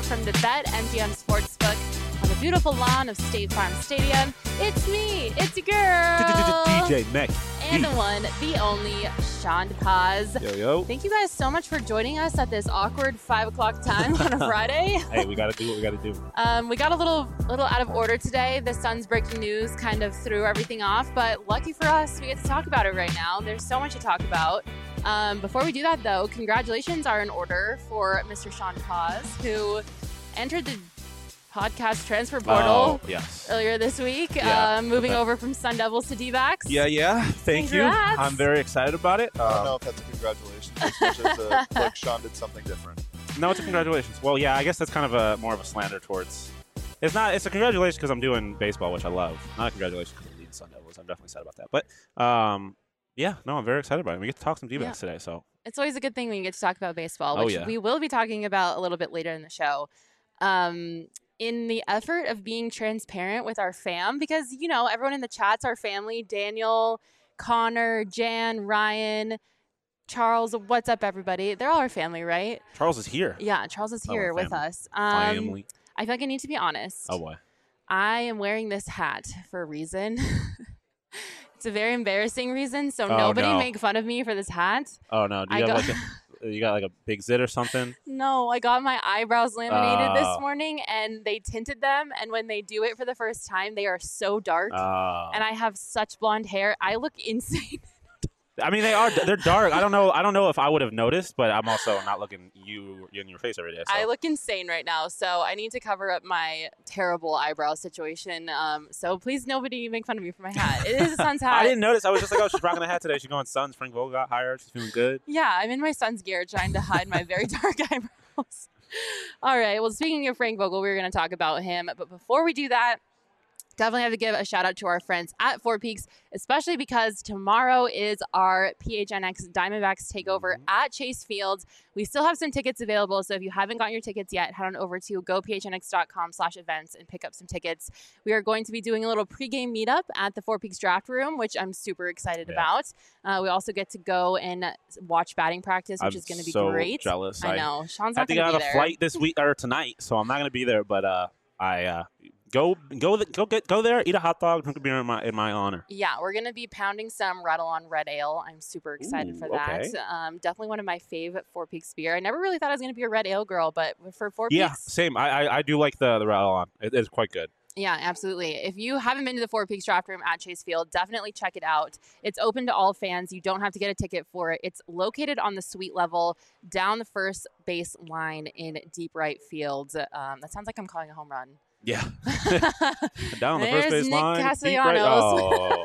from the Bet MGM Sportsbook on the beautiful lawn of State Farm Stadium. It's me, it's your girl, DJ Mac. and the one, the only, Sean Paz. Yo. Thank you guys so much for joining us at this awkward 5 o'clock time on a Friday. Hey, we got to do what we got to do. We got a little out of order today. The Suns breaking news kind of threw everything off, but lucky for us, we get to talk about it right now. There's so much to talk about. Before we do that, though, congratulations are in order for Mr. Sean Paz, who entered the podcast transfer portal earlier this week, moving over from Sun Devils to D-backs. Yeah. Thank you. I'm very excited about it. I don't know if that's a congratulations, especially if like Sean did something different. No, it's a congratulations. Well, yeah, I guess that's kind of more of a slander towards. It's not. It's a congratulations because I'm doing baseball, which I love. Not a congratulations because I'm leading Sun Devils. I'm definitely sad about that. But yeah, no, I'm very excited about it. We get to talk some D-backs today, so it's always a good thing when you get to talk about baseball, which Oh, yeah. we will be talking about a little bit later in the show. In the effort of being transparent with our fam, because, you know, everyone in the chat's our family. Daniel, Connor, Jan, Ryan, Charles, what's up, everybody? They're all our family, right? Charles is here. Yeah, Charles is here with us. Family. I feel like I need to be honest. Oh, boy. I am wearing this hat for a reason. It's a very embarrassing reason, so nobody make fun of me for this hat. Oh, no. Do you have you got like a big zit or something? No, I got my eyebrows laminated this morning, and they tinted them. And when they do it for the first time, they are so dark. And I have such blonde hair. I look insane. I mean, they're dark. I don't know if I would have noticed, but I'm also not looking you in your face every day. So. I look insane right now, so I need to cover up my terrible eyebrow situation. So please, nobody make fun of me for my hat. It is a Suns hat. I didn't notice. I was just like, oh, she's rocking a hat today. She's going Suns. Frank Vogel got hired. She's feeling good. Yeah, I'm in my Suns gear trying to hide my very dark eyebrows. All right. Well, speaking of Frank Vogel, we're going to talk about him. But before we do that, definitely have to give a shout out to our friends at Four Peaks, especially because tomorrow is our PHNX Diamondbacks takeover at Chase Field. We still have some tickets available, so if you haven't gotten your tickets yet, head on over to gophnx.com/events and pick up some tickets. We are going to be doing a little pregame meetup at the Four Peaks Draft Room, which I'm super excited about. We also get to go and watch batting practice, which is going to be great. I'm jealous. I know. Sean's not going to be there. I think I have a flight this week or tonight, so I'm not going to be there, but Go there, eat a hot dog, drink a beer in my honor. Yeah, we're going to be pounding some Rattle on Red Ale. I'm super excited for that. Okay. Definitely one of my favorite Four Peaks beer. I never really thought I was going to be a Red Ale girl, but for Four Peaks. Yeah, same. I do like the Rattle on. It's quite good. Yeah, absolutely. If you haven't been to the Four Peaks Draft Room at Chase Field, definitely check it out. It's open to all fans. You don't have to get a ticket for it. It's located on the suite level down the first base line in deep right field. That sounds like I'm calling a home run. Yeah. Down the There's first base Nick line. Castellanos.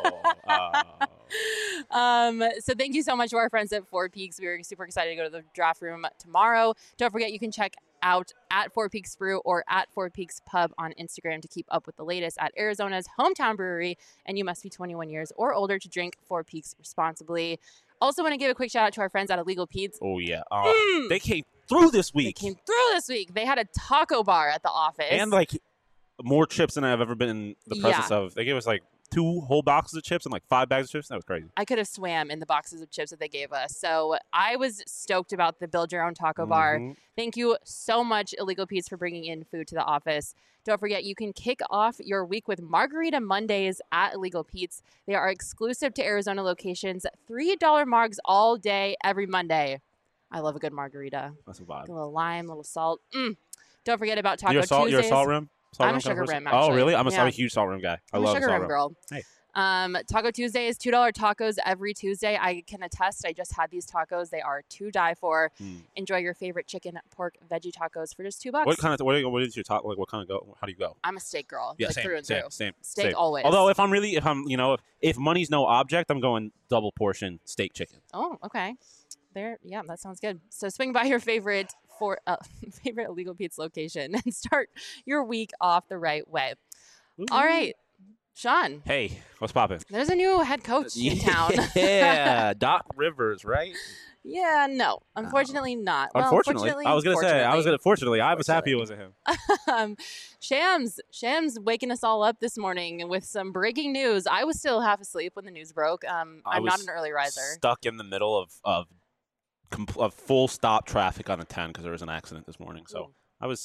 So thank you so much to our friends at Four Peaks. We're super excited to go to the draft room tomorrow. Don't forget, you can check out at Four Peaks Brew or at Four Peaks Pub on Instagram to keep up with the latest at Arizona's hometown brewery. And you must be 21 years or older to drink Four Peaks responsibly. Also want to give a quick shout out to our friends at Illegal Pete's. Oh, yeah. They came through this week. They had a taco bar at the office. And like more chips than I've ever been in the presence of. They gave us like 2 whole boxes of chips and like 5 bags of chips. That was crazy. I could have swam in the boxes of chips that they gave us. So I was stoked about the Build Your Own Taco Bar. Thank you so much, Illegal Pete's, for bringing in food to the office. Don't forget, you can kick off your week with Margarita Mondays at Illegal Pete's. They are exclusive to Arizona locations. $3 margs all day, every Monday. I love a good margarita. That's a vibe. A little lime, a little salt. Don't forget about Taco Tuesdays. You're a salt rim? I'm a sugar rim, actually. Oh, really? I'm a huge salt rim guy. I love sugar salt rim girl. Hey. Taco Tuesdays, $2 tacos every Tuesday. I can attest. I just had these tacos. They are to die for. Enjoy your favorite chicken, pork, veggie tacos for just $2. What is your taco? Like, what kind of go? How do you go? I'm a steak girl. Yeah, like same, through and through. Same. Steak always. Although if money's no object, I'm going double portion steak chicken. Oh, okay. Yeah, that sounds good. So swing by your favorite Illegal Pete's location and start your week off the right way. All right. Sean. Hey, what's poppin'? There's a new head coach in town. Yeah, Doc Rivers, right? Yeah, no. Unfortunately not. Unfortunately. I was going to say, fortunately, I was happy it wasn't him. Shams waking us all up this morning with some breaking news. I was still half asleep when the news broke. I'm not an early riser. Stuck in the middle of full stop traffic on the 10 because there was an accident this morning. So I was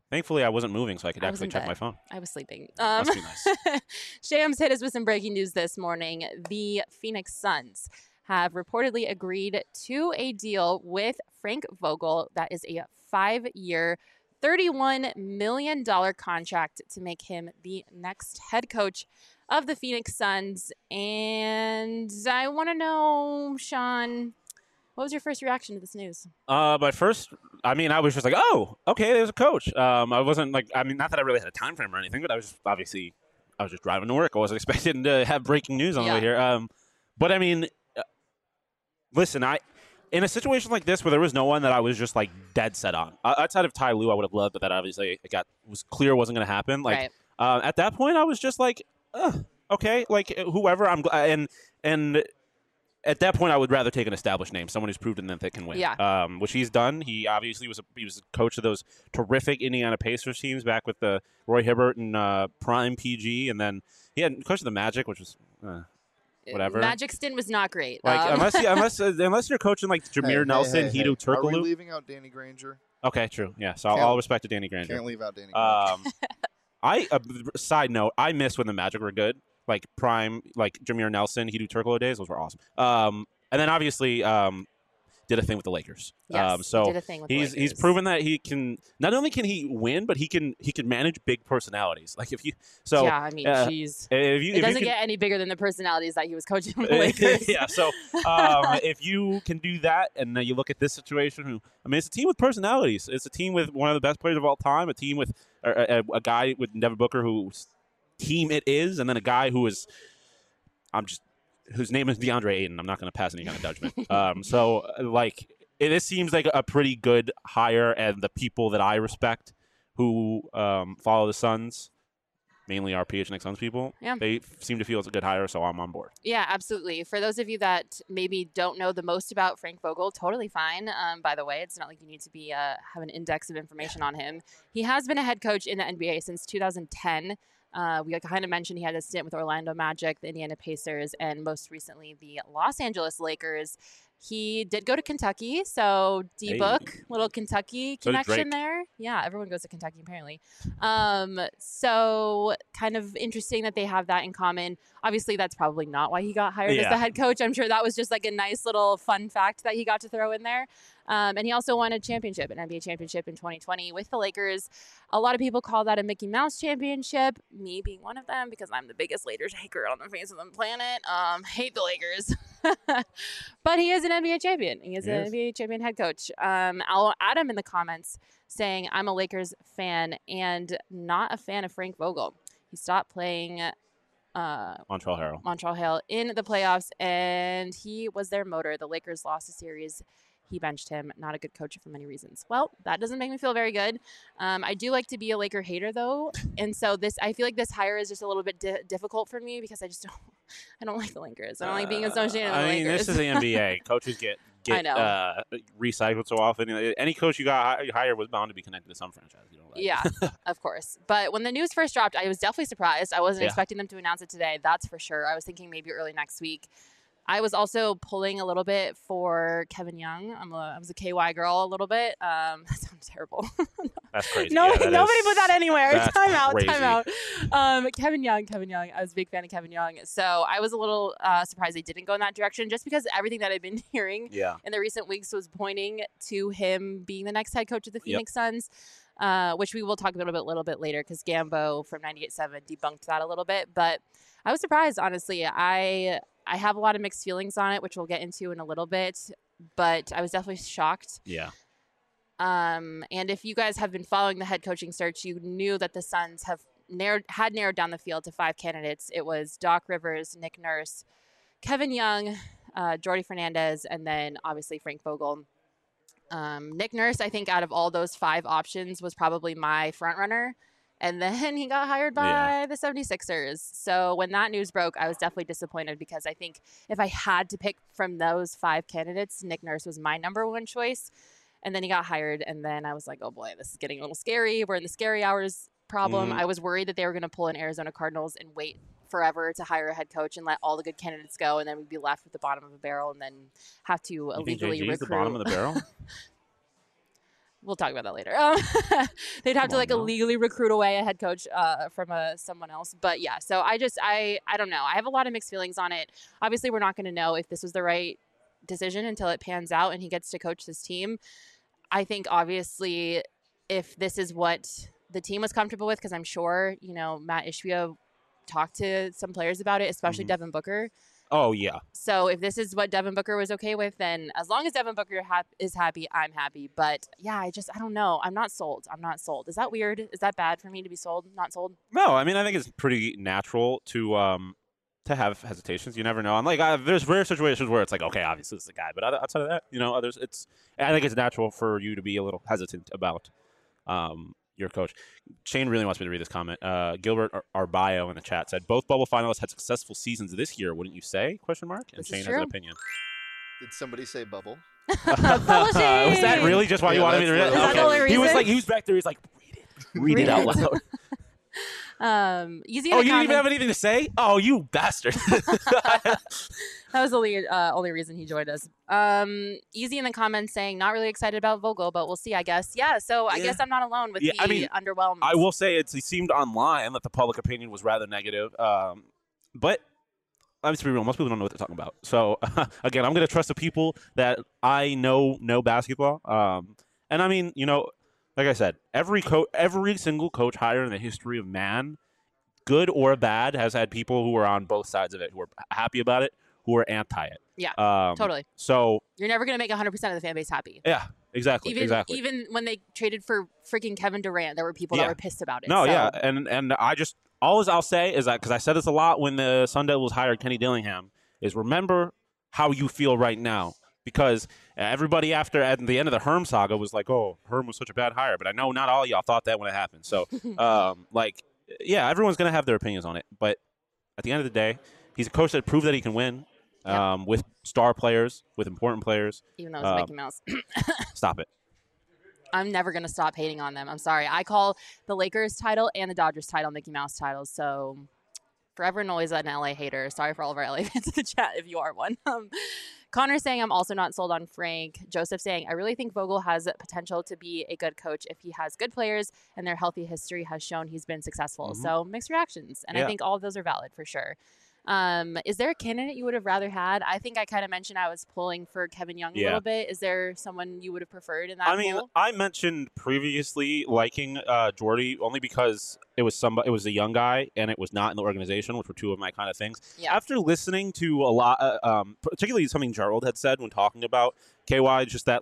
Thankfully, I wasn't moving, so I could I was actually in check bed. my phone. I was sleeping. Must be nice. Shams hit us with some breaking news this morning. The Phoenix Suns have reportedly agreed to a deal with Frank Vogel that is a 5-year, $31 million contract to make him the next head coach of the Phoenix Suns. And I want to know, Sean, what was your first reaction to this news? My first, I was just like, oh, okay, there's a coach. I wasn't like, not that I really had a time frame or anything, but I was just driving to work. I wasn't expecting to have breaking news on the way here. But listen, in a situation like this where there was no one that I was just like dead set on, outside of Ty Lue, I would have loved, but that obviously was clear wasn't going to happen. Like at that point, I was just like, okay, like whoever and at that point, I would rather take an established name, someone who's proven that they can win. Yeah. Which he's done. He obviously was a coach of those terrific Indiana Pacers teams back with the Roy Hibbert and Prime PG, and then he had coach of the Magic, which was whatever. Magic stint was not great. Like unless you're coaching like Jameer Nelson, Hedo Turkoglu. Are we leaving out Danny Granger? Okay, true. Yeah, so I'll respect to Danny Granger. Can't leave out Danny Granger. Side note, I miss when the Magic were good. Like prime, like Jameer Nelson, Hedo Turkoglu days, those were awesome. And then obviously did a thing with the Lakers. Yes, so did a thing with the Lakers. He's proven that he can. Not only can he win, but he can manage big personalities. Like jeez. It doesn't get any bigger than the personalities that he was coaching the Lakers. Yeah. So if you can do that, and you look at this situation, it's a team with personalities. It's a team with one of the best players of all time. A team with a guy with Devin Booker who's team it is, and then a guy whose name is DeAndre Ayton. I'm not going to pass any kind of judgment. This seems like a pretty good hire, and the people that I respect who follow the Suns, mainly our PHNX Suns people, they seem to feel it's a good hire, so I'm on board. Yeah, absolutely. For those of you that maybe don't know the most about Frank Vogel, totally fine. By the way, it's not like you need to be have an index of information on him. He has been a head coach in the NBA since 2010. We kind of mentioned he had a stint with Orlando Magic, the Indiana Pacers, and most recently the Los Angeles Lakers. He did go to Kentucky, so D-Book, little Kentucky connection there. Yeah, everyone goes to Kentucky apparently. So kind of interesting that they have that in common. Obviously, that's probably not why he got hired as the head coach. I'm sure that was just like a nice little fun fact that he got to throw in there. And he also won a championship, an NBA championship in 2020 with the Lakers. A lot of people call that a Mickey Mouse championship, me being one of them because I'm the biggest Lakers hater on the face of the planet. Hate the Lakers. But he is an NBA champion. He is an NBA champion head coach. Adam in the comments saying, I'm a Lakers fan and not a fan of Frank Vogel. He stopped playing Montreal Harrell in the playoffs, and he was their motor. The Lakers lost a series. He benched him. Not a good coach for many reasons. Well, that doesn't make me feel very good. I do like to be a Laker hater, though. And so I feel like this hire is just a little bit difficult for me because I don't like the Lakers. I don't like being associated with the Lakers. This is the NBA. Coaches get recycled so often. Any coach you got hired was bound to be connected to some franchise. You know, yeah, of course. But when the news first dropped, I was definitely surprised. I wasn't expecting them to announce it today. That's for sure. I was thinking maybe early next week. I was also pulling a little bit for Kevin Young. I was a KY girl a little bit. That sounds terrible. That's crazy. Nobody put that anywhere. Time out. Kevin Young. I was a big fan of Kevin Young. So I was a little surprised they didn't go in that direction just because everything that I've been hearing in the recent weeks was pointing to him being the next head coach of the Phoenix Suns. Which we will talk about a little bit later because Gambo from 98.7 debunked that a little bit. But I was surprised, honestly. I have a lot of mixed feelings on it, which we'll get into in a little bit. But I was definitely shocked. Yeah. And if you guys have been following the head coaching search, you knew that the Suns had narrowed down the field to 5 candidates. It was Doc Rivers, Nick Nurse, Kevin Young, Jordi Fernandez, and then obviously Frank Vogel. Nick Nurse, I think out of all those 5 options was probably my front runner. And then he got hired by the 76ers. So when that news broke, I was definitely disappointed because I think if I had to pick from those 5 candidates, Nick Nurse was my number one choice. And then he got hired. And then I was like, oh boy, this is getting a little scary. We're in the scary hours problem. I was worried that they were going to pull an Arizona Cardinals and wait forever to hire a head coach and let all the good candidates go. And then we'd be left with the bottom of a barrel and then have to illegally recruit. The bottom of the barrel? we'll talk about that later. They'd have Come to on like now. illegally recruit away a head coach from someone else. But yeah, so I don't know. I have a lot of mixed feelings on it. Obviously, we're not going to know if this was the right decision until it pans out and he gets to coach this team. I think obviously if this is what the team was comfortable with, because I'm sure, Matt Ishbia talked to some players about it, especially Mhm. Devin Booker. Oh, yeah. So if this is what Devin Booker was okay with, then as long as Devin Booker is happy, I'm happy. But yeah, I don't know. I'm not sold. Is that weird? Is that bad for me to be sold? Not sold? No, I mean, I think it's pretty natural to have hesitations. You never know. I'm like, there's rare situations where it's like, okay, obviously this is the guy, but outside of that, others, I think it's natural for you to be a little hesitant about your coach. Shane really wants me to read this comment. Gilbert Arbaio in the chat said, both bubble finalists had successful seasons this year, wouldn't you say? Question mark. And This is Shane has true. an opinion. Did somebody say bubble? Publishing! Was that really just why you Yeah, wanted me to read it? that's Is that the only He was reason? like, he was back there. He's like, read it out loud. Easy. Oh, you didn't even have anything to say? Oh, you bastard. That was the only reason he joined us. Easy in the comments saying not really excited about Vogel, but we'll see, I guess. Yeah, so I Yeah. guess I'm not alone with Yeah, the I mean, underwhelmed. I will say it seemed online that the public opinion was rather negative. But let's be real, most people don't know what they're talking about. So, again, I'm going to trust the people that I know basketball. And, I mean, like I said, every single coach hired in the history of man, good or bad, has had people who are on both sides of it, who are happy about it, who are anti it. Yeah, Um, totally. So, You're never going to make 100% of the fan base happy. yeah, exactly. Even when they traded for freaking Kevin Durant, there were people that Yeah. were pissed about it. No, so. yeah, and I just I'll say is that because I said this a lot when the Sun Devils hired Kenny Dillingham is remember how you feel right now because everybody at the end of the Herm saga was like, oh, Herm was such a bad hire, but I know not all of y'all thought that when it happened. So, yeah, everyone's gonna have their opinions on it, but at the end of the day, he's a coach that proved that he can win with star players, with important players. Even though it's Mickey Mouse. Stop it. I'm never going to stop hating on them. I'm sorry. I call the Lakers title and the Dodgers title Mickey Mouse titles. So forever and always an LA hater. Sorry for all of our LA fans in the chat if you are one. Connor saying I'm also not sold on Frank. Joseph saying I really think Vogel has potential to be a good coach if he has good players and their healthy history has shown he's been successful. Mhm. So mixed reactions. And I Yeah. think all of those are valid for sure. Is there a candidate you would have rather had? I think I kind of mentioned I was pulling for Kevin Young a Yeah. little bit. Is there someone you would have preferred in that I mean, pool? I mentioned previously liking Jordy only because it was a young guy and it was not in the organization, which were two of my kind of things. Yeah. After listening to a lot, particularly something Gerald had said when talking about KY, just that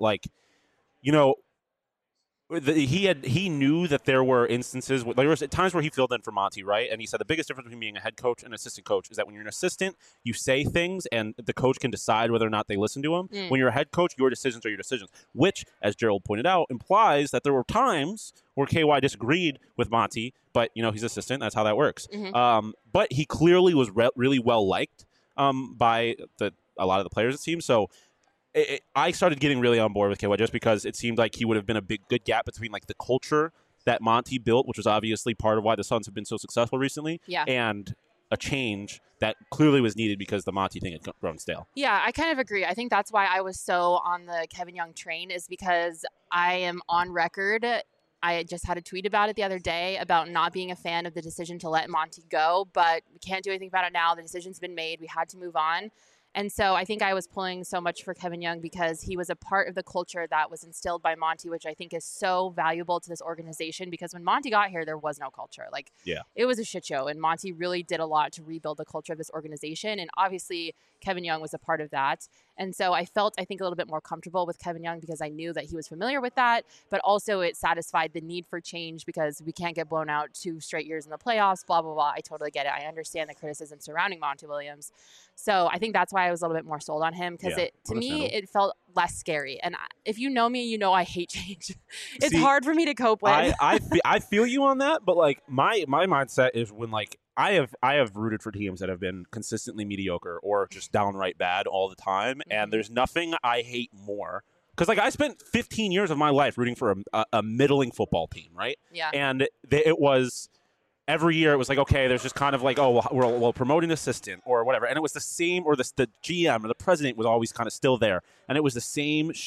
he knew that there were instances there was times where he filled in for Monty, right? And he said the biggest difference between being a head coach and an assistant coach is that when you're an assistant, you say things and the coach can decide whether or not they listen to him. Mm. When you're a head coach, your decisions are your decisions, which, as Gerald pointed out, implies that there were times where KY disagreed with Monty, but he's assistant. That's how that works. Mhm. But he clearly was really well liked by a lot of the players, it seems. So. I started getting really on board with KY just because it seemed like he would have been a good gap between like the culture that Monty built, which was obviously part of why the Suns have been so successful recently, Yeah. and a change that clearly was needed because the Monty thing had grown stale. Yeah, I kind of agree. I think that's why I was so on the Kevin Young train is because I am on record. I just had a tweet about it the other day about not being a fan of the decision to let Monty go, but we can't do anything about it now. The decision's been made. We had to move on. And so I think I was pulling so much for Kevin Young because he was a part of the culture that was instilled by Monty, which I think is so valuable to this organization because when Monty got here, there was no culture. It was a shit show. And Monty really did a lot to rebuild the culture of this organization. And obviously, Kevin Young was a part of that. And so I felt, I think, a little bit more comfortable with Kevin Young because I knew that he was familiar with that, but also it satisfied the need for change because we can't get blown out 2 straight years in the playoffs, blah, blah, blah. I totally get it. I understand the criticism surrounding Monty Williams. So I think that's why I was a little bit more sold on him because to me, it felt less scary. And if you know me, you know I hate change. It's hard for me to cope with. I feel you on that, but like my mindset is when like I have rooted for teams that have been consistently mediocre or just downright bad all the time, and there's nothing I hate more. Because like I spent 15 years of my life rooting for a middling football team, right? Yeah. And it was every year it was like, okay, there's just kind of like, oh, we'll promote an assistant or whatever, and it was the same, or the GM or the president was always kind of still there, and it was the same shit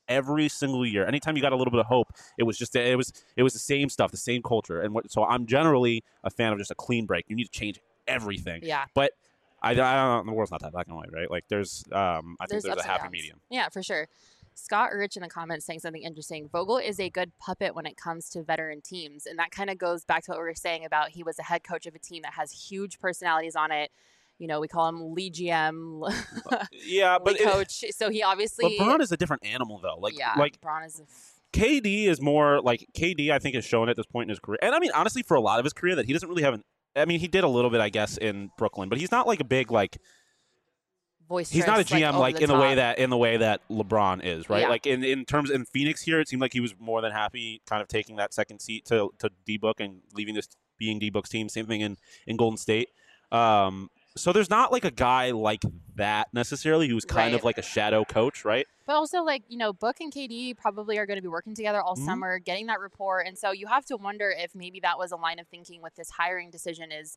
every single year. Anytime you got a little bit of hope, it was the same stuff, the same culture. And so I'm generally a fan of just a clean break. You need to change everything. Yeah. But I don't. The world's not that black and white, right? Like I think there's a ups and happy downs. medium. Yeah, for sure. Scott Urich in the comments saying something interesting. Vogel is a good puppet when it comes to veteran teams. And that kind of goes back to what we were saying about he was a head coach of a team that has huge personalities on it. You know, we call him Lee GM, Yeah, but Lee coach. So he obviously. LeBron is a different animal, though. Like LeBron is. KD is more like KD. I think has shown at this point in his career, and I mean honestly, for a lot of his career, that he doesn't really have he did a little bit, I guess, in Brooklyn, but he's not like a big voice. He's not a GM like in the way that LeBron is, right? Yeah. Like in terms in Phoenix here, it seemed like he was more than happy, kind of taking that second seat to D-Book and leaving this being D-Book's team. Same thing in Golden State. So there's not like a guy like that necessarily who's kind of like a shadow coach, right? But also, Book and KD probably are going to be working together all summer, getting that rapport. And so you have to wonder if maybe that was a line of thinking with this hiring decision is,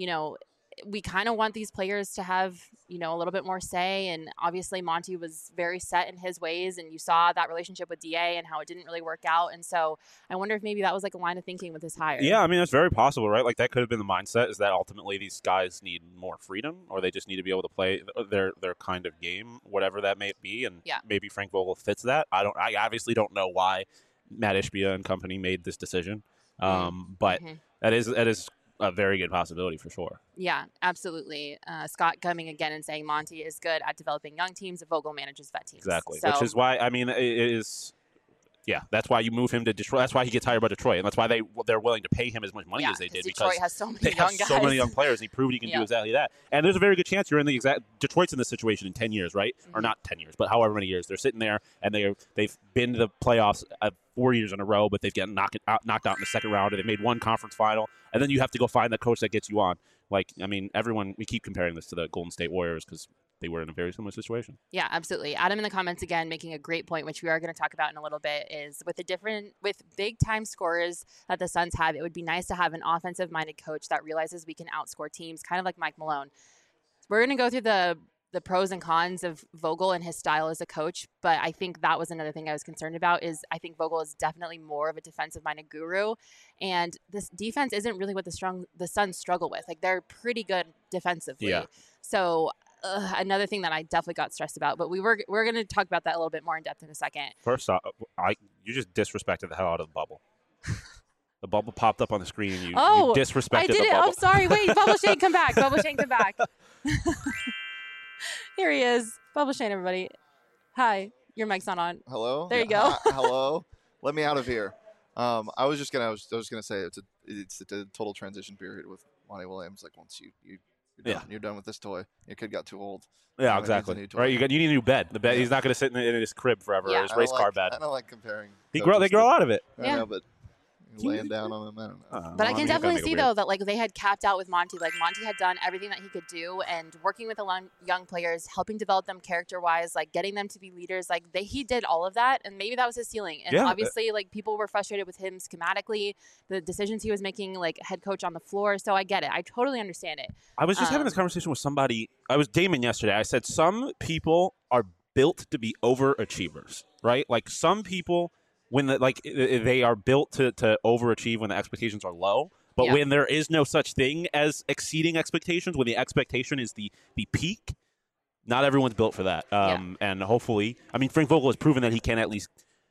we kind of want these players to have, a little bit more say. And obviously Monty was very set in his ways. And you saw that relationship with DA and how it didn't really work out. And so I wonder if maybe that was like a line of thinking with his hire. Yeah, I mean, that's very possible, right? Like that could have been the mindset, is that ultimately these guys need more freedom, or they just need to be able to play their kind of game, whatever that may be. And maybe Frank Vogel fits that. I obviously don't know why Matt Ishbia and company made this decision. But that is a very good possibility for sure. Yeah, absolutely. Scott coming again and saying Monty is good at developing young teams. Vogel manages vet teams. Exactly, so, which is why, I mean, it is. Yeah, that's why you move him to Detroit. That's why he gets hired by Detroit, and that's why they're willing to pay him as much money as they did, Detroit because has so many they young have guys. so many young players. And he proved he can do exactly that. And there's a very good chance you're in the exact Detroit's in this situation in 10 years, right? Or not 10 years, but however many years they're sitting there, and they've been to the playoffs 4 years in a row, but they've gotten knocked out in the second round, and they made one conference final, and then you have to go find the coach that gets you on. Like, I mean, we keep comparing this to the Golden State Warriors because they were in a very similar situation. Yeah, absolutely. Adam in the comments again making a great point, which we are going to talk about in a little bit, is with big time scorers that the Suns have, it would be nice to have an offensive minded coach that realizes we can outscore teams, kind of like Mike Malone. We're going to go through the pros and cons of Vogel and his style as a coach, but I think that was another thing I was concerned about. Is I think Vogel is definitely more of a defensive minded guru, and this defense isn't really what the Suns struggle with. Like, they're pretty good defensively. Yeah. So another thing that I definitely got stressed about, but we're going to talk about that a little bit more in depth in a second. First off, you just disrespected the hell out of the bubble. The bubble popped up on the screen, and you disrespected I did the it. bubble. I'm sorry. Wait, Bubble Shane, come back. Bubble Shane, come back. Here he is. Bubble Shane, everybody. Hi. Your mic's not on. Hello. There you go. Hello. Let me out of here. I was just gonna say it's a total transition period with Monty Williams. Like, once you're done with this toy, your kid got too old. Yeah, exactly. Right, you need a new bed. The bed. He's not going to sit in his crib forever. Yeah. Or his race car bed. I don't like comparing. They grow out of it. I know, but laying down on him, I don't know. But I can definitely see, though, that they had capped out with Monty. Like, Monty had done everything that he could do, and working with the young players, helping develop them character-wise, getting them to be leaders. He did all of that, and maybe that was his ceiling. And obviously, people were frustrated with him schematically, the decisions he was making, head coach on the floor. So I get it. I totally understand it. I was just having this conversation with somebody. I was Damon yesterday. I said some people are built to be overachievers, right? Like, some people, when they are built to overachieve when the expectations are low, but when there is no such thing as exceeding expectations, when the expectation is the peak, not everyone's built for that. And hopefully, I mean, Frank Vogel has proven that he can at least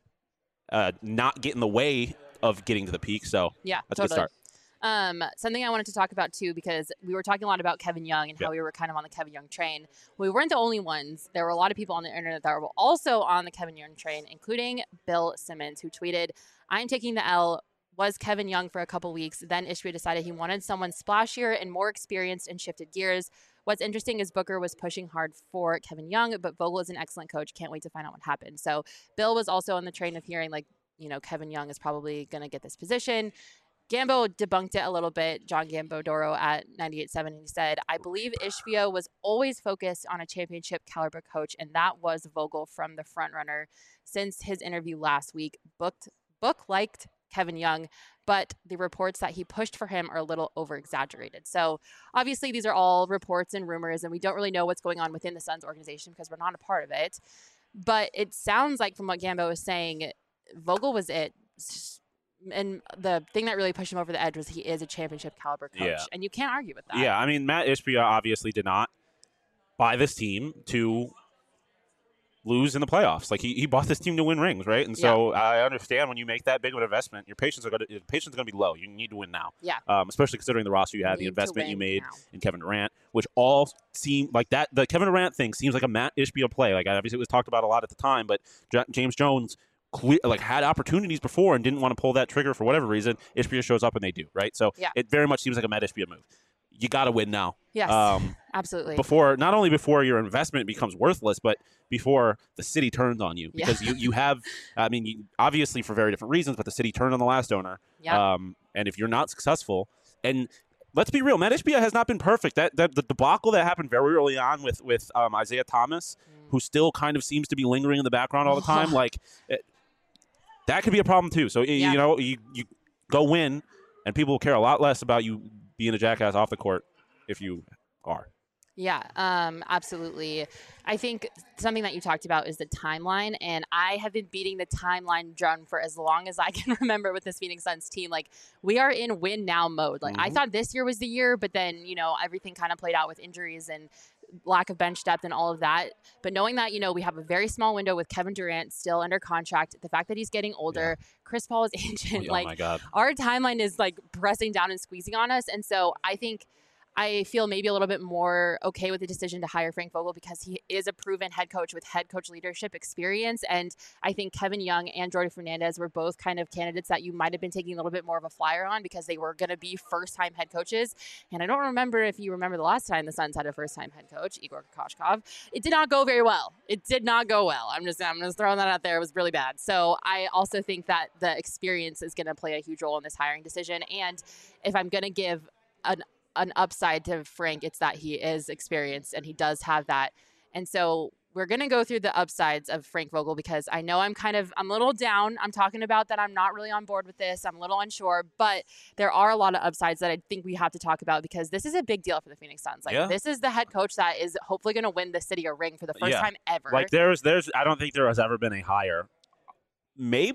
not get in the way of getting to the peak. So that's a good start. Something I wanted to talk about too, because we were talking a lot about Kevin Young and how we were kind of on the Kevin Young train. We weren't the only ones. There were a lot of people on the internet that were also on the Kevin Young train, including Bill Simmons, who tweeted, "I'm taking the L. Was Kevin Young for a couple weeks. Then Ishbia decided he wanted someone splashier and more experienced and shifted gears. What's interesting is Booker was pushing hard for Kevin Young, but Vogel is an excellent coach. Can't wait to find out what happened." So Bill was also on the train of hearing Kevin Young is probably going to get this position. Gambo debunked it a little bit, John Gambodoro at 98.7, and he said, "I believe Ishbia was always focused on a championship caliber coach, and that was Vogel from the front runner. Since his interview last week, Book liked Kevin Young, but the reports that he pushed for him are a little over-exaggerated." So obviously these are all reports and rumors, and we don't really know what's going on within the Suns organization because we're not a part of it. But it sounds like from what Gambo was saying, Vogel was it. And the thing that really pushed him over the edge was he is a championship caliber coach. Yeah. And you can't argue with that. Yeah, I mean, Matt Ishbia obviously did not buy this team to lose in the playoffs. Like he bought this team to win rings, right? And so I understand when you make that big of an investment, your patience is going to be low. You need to win now. Yeah. Especially considering the roster you had, the investment you made in Kevin Durant, which all seem like that. The Kevin Durant thing seems like a Matt Ishbia play. Like obviously it was talked about a lot at the time, but James Jones had opportunities before and didn't want to pull that trigger for whatever reason. Ishbia shows up and they do, right? So it very much seems like a Matt Ishbia move. You got to win now. Yes, absolutely. Not only before your investment becomes worthless, but before the city turns on you. Because you have, I mean, obviously for very different reasons, but the city turned on the last owner. Yeah. And if you're not successful, and let's be real, Matt Ishbia has not been perfect. The debacle that happened very early on with Isaiah Thomas, who still kind of seems to be lingering in the background all the time, that could be a problem too. So, you go win, and people will care a lot less about you being a jackass off the court if you are. Yeah, absolutely. I think something that you talked about is the timeline, and I have been beating the timeline drum for as long as I can remember with this Phoenix Suns team. Like, we are in win now mode. Like, I thought this year was the year, but then, everything kind of played out with injuries and lack of bench depth and all of that. But knowing that, we have a very small window with Kevin Durant still under contract, the fact that he's getting older, Chris Paul is ancient. Oh my God. Our timeline is like pressing down and squeezing on us. And so I feel maybe a little bit more okay with the decision to hire Frank Vogel because he is a proven head coach with head coach leadership experience. And I think Kevin Young and Jordi Fernandez were both kind of candidates that you might have been taking a little bit more of a flyer on because they were going to be first-time head coaches. And I don't remember if you remember the last time the Suns had a first-time head coach, Igor Kokoshkov. It did not go very well. It did not go well. I'm just throwing that out there. It was really bad. So I also think that the experience is going to play a huge role in this hiring decision. And if I'm going to give an upside to Frank, it's that he is experienced and he does have that. And so we're going to go through the upsides of Frank Vogel because I know I'm a little down. I'm talking about that I'm not really on board with this. I'm a little unsure, but there are a lot of upsides that I think we have to talk about because this is a big deal for the Phoenix Suns. This is the head coach that is hopefully going to win the city a ring for the first time ever. Like there's I don't think there has ever been a hire. Maybe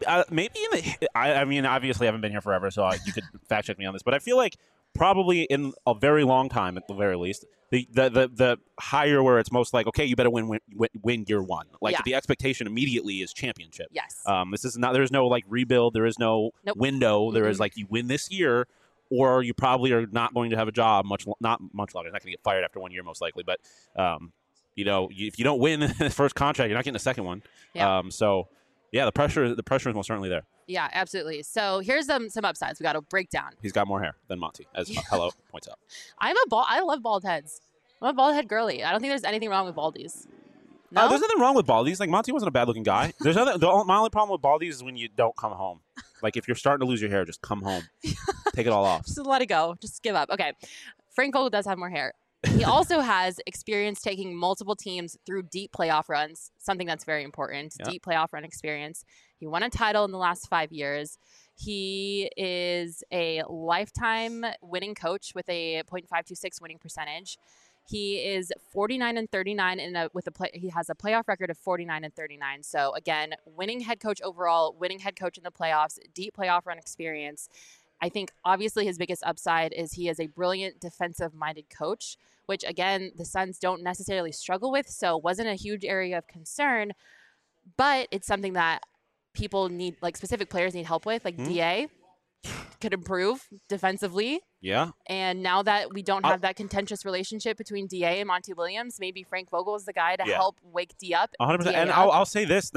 I mean, obviously I haven't been here forever, so you could fact check me on this, but I feel like probably in a very long time, at the very least, the higher where it's most like, okay, you better win year one. Like the expectation immediately is championship. Yes. This is not. There's no like rebuild. There is no window. There is like you win this year, or you probably are not going to have a job not much longer. You're not going to get fired after 1 year, most likely. But if you don't win the first contract, you're not getting a second one. Yeah. The pressure is most certainly there. Yeah, absolutely. So here's some upsides we got to break down. He's got more hair than Monty, as Hello points out. I love bald heads. I'm a bald head girly. I don't think there's anything wrong with baldies. No? There's nothing wrong with baldies. Like Monty wasn't a bad looking guy. My only problem with baldies is when you don't come home. Like if you're starting to lose your hair, just come home. Take it all off. Just let it go. Just give up. Okay. Frank Vogel does have more hair. He also has experience taking multiple teams through deep playoff runs, something that's very important, deep playoff run experience. He won a title in the last 5 years. He is a lifetime winning coach with a .526 winning percentage. He is 49-39 he has a playoff record of 49-39. So again, winning head coach overall, winning head coach in the playoffs, deep playoff run experience. I think obviously his biggest upside is he is a brilliant defensive-minded coach, which, again, the Suns don't necessarily struggle with, so wasn't a huge area of concern. But it's something that people need, like specific players need help with, like DA could improve defensively. Yeah. And now that we don't have that contentious relationship between DA and Monty Williams, maybe Frank Vogel is the guy to help wake D up. 100%. And I'll say this.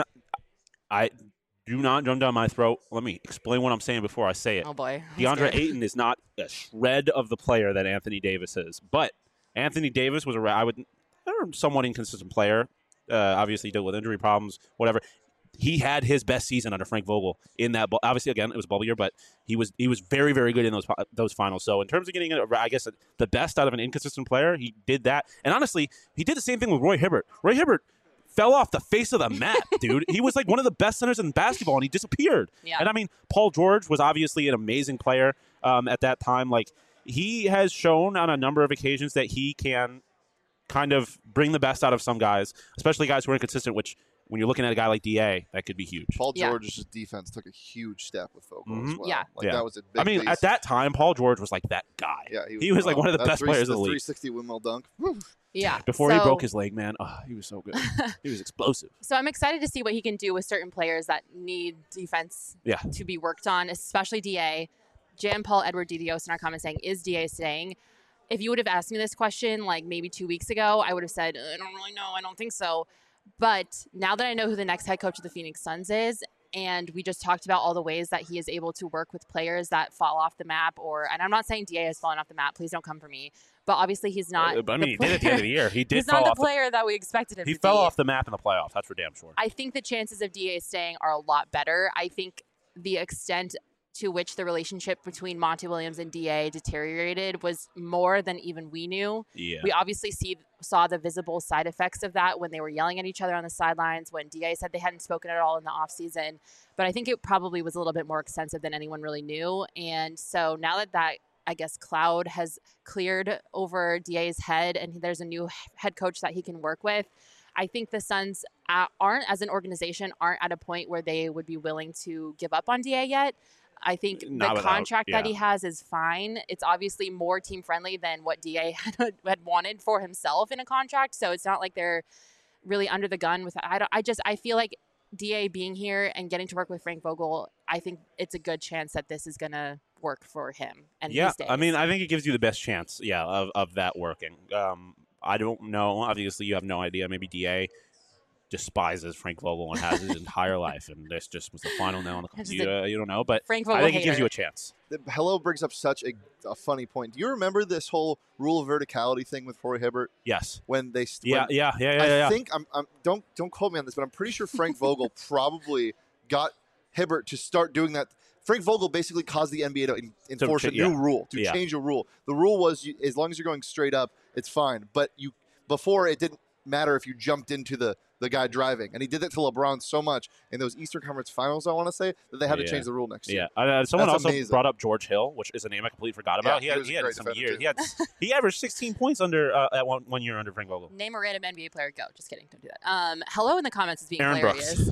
Do not jump down my throat. Let me explain what I'm saying before I say it. Oh, boy. DeAndre Ayton is not a shred of the player that Anthony Davis is. But Anthony Davis was a somewhat inconsistent player. Obviously, he dealt with injury problems, whatever. He had his best season under Frank Vogel in that. Obviously, again, it was a bubble year, but he was very, very good in those finals. So in terms of getting, I guess, the best out of an inconsistent player, he did that. And honestly, he did the same thing with Roy Hibbert. Roy Hibbert fell off the face of the map, dude. He was like one of the best centers in basketball, and he disappeared. Yeah. And I mean, Paul George was obviously an amazing player at that time. Like, he has shown on a number of occasions that he can kind of bring the best out of some guys, especially guys who are inconsistent, which when you're looking at a guy like DA, that could be huge. Paul Yeah. George's defense took a huge step with Vogel as well. Yeah. Like Yeah. that was a big I mean, piece. at that time, Paul George was like that guy. Yeah, he was like one of the best players in the league. 360 windmill dunk. Yeah. Before he So- broke his leg, man, he was so good. He was explosive. So I'm excited to see what he can do with certain players that need defense Yeah. to be worked on, especially DA. Jan Paul Edward Didios in our comments saying, is DA staying? If you would have asked me this question like maybe 2 weeks ago, I would have said, I don't really know. I don't think so. But now that I know who the next head coach of the Phoenix Suns is, and we just talked about all the ways that he is able to work with players that fall off the map, and I'm not saying DA has fallen off the map. Please don't come for me. But obviously he's not. But I mean, he did at the end of the year. He did He's fall not the off. player that we expected him He to fell be. off the map in the playoffs. That's for damn sure. I think the chances of DA staying are a lot better. I think the extent to which the relationship between Monty Williams and DA deteriorated was more than even we knew. Yeah. We obviously saw the visible side effects of that when they were yelling at each other on the sidelines, when DA said they hadn't spoken at all in the offseason. But I think it probably was a little bit more extensive than anyone really knew. And so now that I guess, cloud has cleared over DA's head and there's a new head coach that he can work with, I think the Suns as an organization, aren't at a point where they would be willing to give up on DA yet. I think the contract that he has is fine. It's obviously more team friendly than what DA had wanted for himself in a contract. So it's not like they're really under the gun with. I feel like DA being here and getting to work with Frank Vogel, I think it's a good chance that this is going to work for him. And yeah, he stays. I mean, I think it gives you the best chance, of that working. I don't know. Obviously, you have no idea. Maybe DA despises Frank Vogel and has his entire life, and this just was the final nail on the coffin. You don't know, but Frank Vogel I think hater. it gives you a chance. Hello brings up such a funny point. Do you remember this whole rule of verticality thing with Roy Hibbert Yes. when they? Yeah. I think I'm don't quote me on this, but I'm pretty sure Frank Vogel probably got Hibbert to start doing that. Frank Vogel basically caused the NBA to enforce a new rule, to change a rule. The rule was as long as you're going straight up, it's fine. But before it didn't matter if you jumped into the guy driving. And he did that to LeBron so much in those Eastern Conference Finals, I want to say, that they had to change the rule next year. Yeah. Someone That's also amazing. brought up George Hill, which is a name I completely forgot about. Yeah, he had some years. too. He averaged 16 points under at one year under Frank Vogel. Name a random NBA player. Go. Just kidding. Don't do that. Hello in the comments is being Aaron hilarious.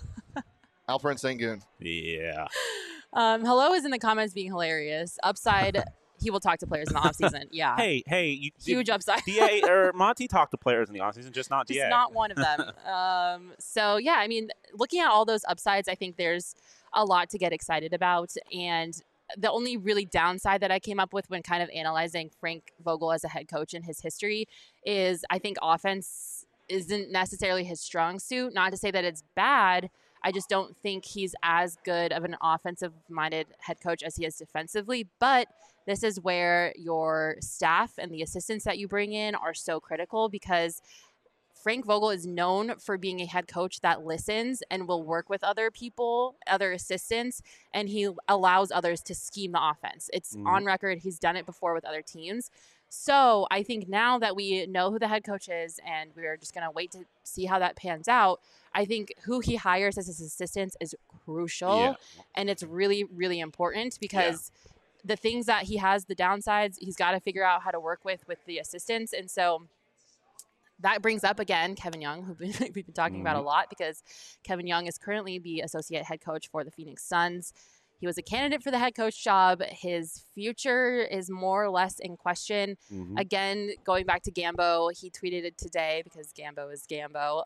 Alperen Sengun. Yeah. Hello is in the comments being hilarious. Upside, he will talk to players in the offseason. Yeah. Hey, Huge upside. DA or Monty talked to players in the offseason, just not DA. Just not one of them. So, yeah, I mean, looking at all those upsides, I think there's a lot to get excited about. And the only really downside that I came up with when kind of analyzing Frank Vogel as a head coach in his history is I think offense isn't necessarily his strong suit. Not to say that it's bad. I just don't think he's as good of an offensive-minded head coach as he is defensively. But this is where your staff and the assistants that you bring in are so critical, because Frank Vogel is known for being a head coach that listens and will work with other people, other assistants, and he allows others to scheme the offense. It's on record. He's done it before with other teams. So I think now that we know who the head coach is and we're just going to wait to see how that pans out, I think who he hires as his assistants is crucial. Yeah. And it's really, really important because the things that he has, the downsides, he's got to figure out how to work with the assistants. And so that brings up, again, Kevin Young, who we've been talking about a lot, because Kevin Young is currently the associate head coach for the Phoenix Suns. He was a candidate for the head coach job. His future is more or less in question. Again, going back to Gambo, he tweeted it today because Gambo is Gambo.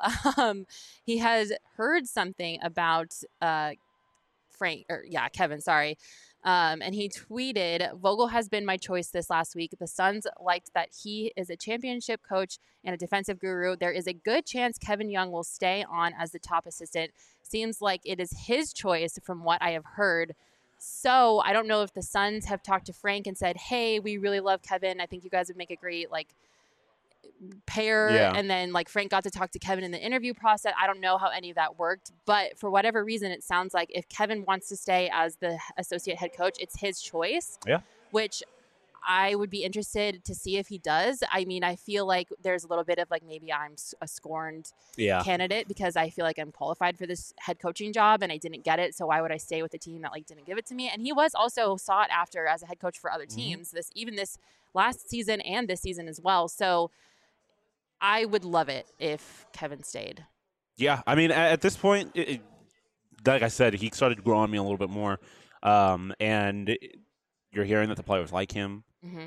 He has heard something about Kevin, sorry. And he tweeted, Vogel has been my choice this last week. The Suns liked that he is a championship coach and a defensive guru. There is a good chance Kevin Young will stay on as the top assistant. Seems like it is his choice from what I have heard. So I don't know if the Suns have talked to Frank and said, hey, we really love Kevin. I think you guys would make a great pair. And then Frank got to talk to Kevin in the interview process. I don't know how any of that worked, but for whatever reason, it sounds like if Kevin wants to stay as the associate head coach, it's his choice. Yeah. Which I would be interested to see if he does. I mean, I feel like there's a little bit of maybe I'm a scorned candidate because I feel like I'm qualified for this head coaching job and I didn't get it. So why would I stay with a team that didn't give it to me? And he was also sought after as a head coach for other teams, this last season and this season as well. So I would love it if Kevin stayed. Yeah, I mean, at this point, like I said, he started growing on me a little bit more, and you're hearing that the players like him. Mm-hmm.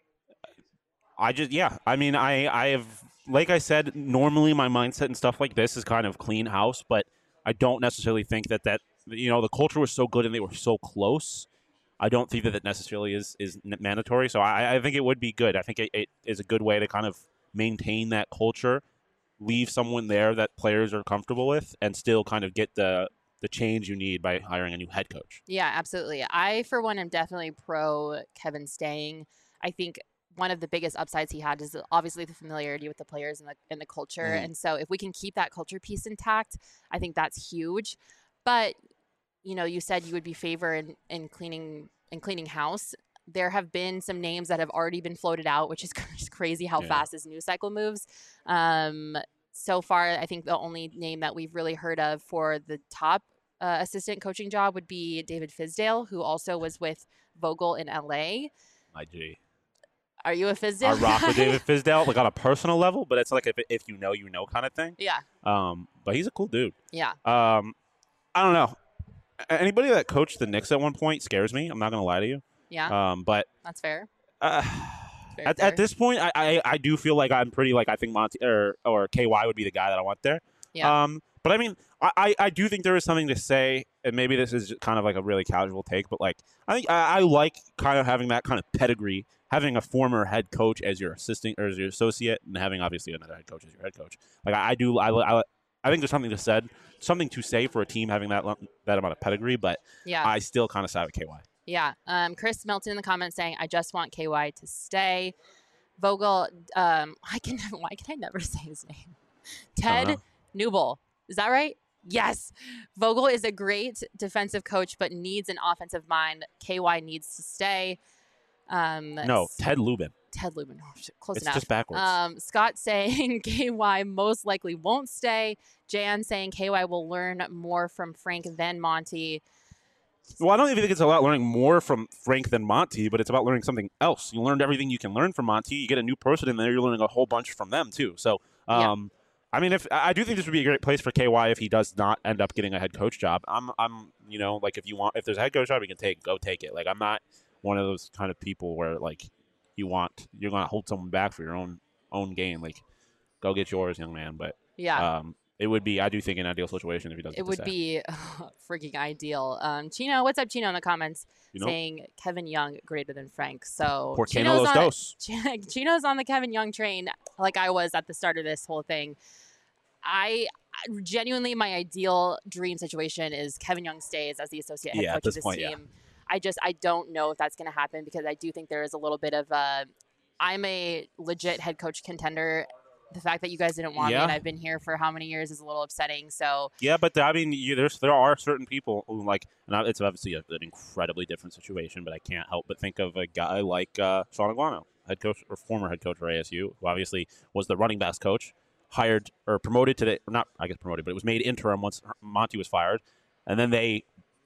I mean, I have, like I said, normally my mindset and stuff like this is kind of clean house, but I don't necessarily think that the culture was so good and they were so close. I don't think that necessarily is mandatory. So I think it would be good. I think it is a good way to kind of maintain that culture, leave someone there that players are comfortable with, and still kind of get the change you need by hiring a new head coach. Yeah, absolutely. I, for one, am definitely pro Kevin staying. I think one of the biggest upsides he had is obviously the familiarity with the players and the culture. Mm. And so if we can keep that culture piece intact, I think that's huge. But, you said you would be favor in cleaning house. There have been some names that have already been floated out, which is crazy how fast this news cycle moves. So far, I think the only name that we've really heard of for the top assistant coaching job would be David Fizdale, who also was with Vogel in LA. My G. Are you a Fizdale? I rock with David Fizdale, like on a personal level, but it's like if you know kind of thing. Yeah. But he's a cool dude. Yeah. I don't know. Anybody that coached the Knicks at one point scares me. I'm not gonna lie to you. Yeah. But that's fair. At this point, I do feel like I'm pretty I think Monty or KY would be the guy that I want there. Yeah. But I mean, I do think there is something to say, and maybe this is kind of like a really casual take, but like I think I like kind of having that kind of pedigree, having a former head coach as your assistant or as your associate, and having obviously another head coach as your head coach. Like I think there's something to say for a team having that amount of pedigree, but I still kind of side with KY. Yeah. Chris Melton in the comments saying, I just want KY to stay. Vogel, why can I never say his name? Ted Newble. Is that right? Yes. Vogel is a great defensive coach, but needs an offensive mind. KY needs to stay. No, Ted Lubin. Ted Lubin. Oh, close it's enough. Just backwards. Scott saying KY most likely won't stay. Jan saying KY will learn more from Frank than Monty. Well, I don't even think it's about learning more from Frank than Monty, but it's about learning something else. You learned everything you can learn from Monty. You get a new person in there, you're learning a whole bunch from them too. So, I mean, I do think this would be a great place for KY if he does not end up getting a head coach job. I'm like if there's a head coach job, you can go take it. Like I'm not one of those kind of people where like you're going to hold someone back for your own gain. Like go get yours, young man. But it would be, I do think, an ideal situation if he does. It would be freaking ideal. Chino, what's up, Chino, in the comments saying Kevin Young greater than Frank. So Chino's on the Kevin Young train, like I was at the start of this whole thing. I genuinely, my ideal dream situation is Kevin Young stays as the associate head coach of this team. I don't know if that's going to happen because I do think there is a little bit of I'm a legit head coach contender. The fact that you guys didn't want me and I've been here for how many years is a little upsetting. So but I mean, there are certain people who and it's obviously an incredibly different situation, but I can't help but think of a guy like Sean Aguano, head coach or former head coach for ASU, who obviously was the running backs coach, hired or promoted to not promoted, but it was made interim once Monty was fired, and then did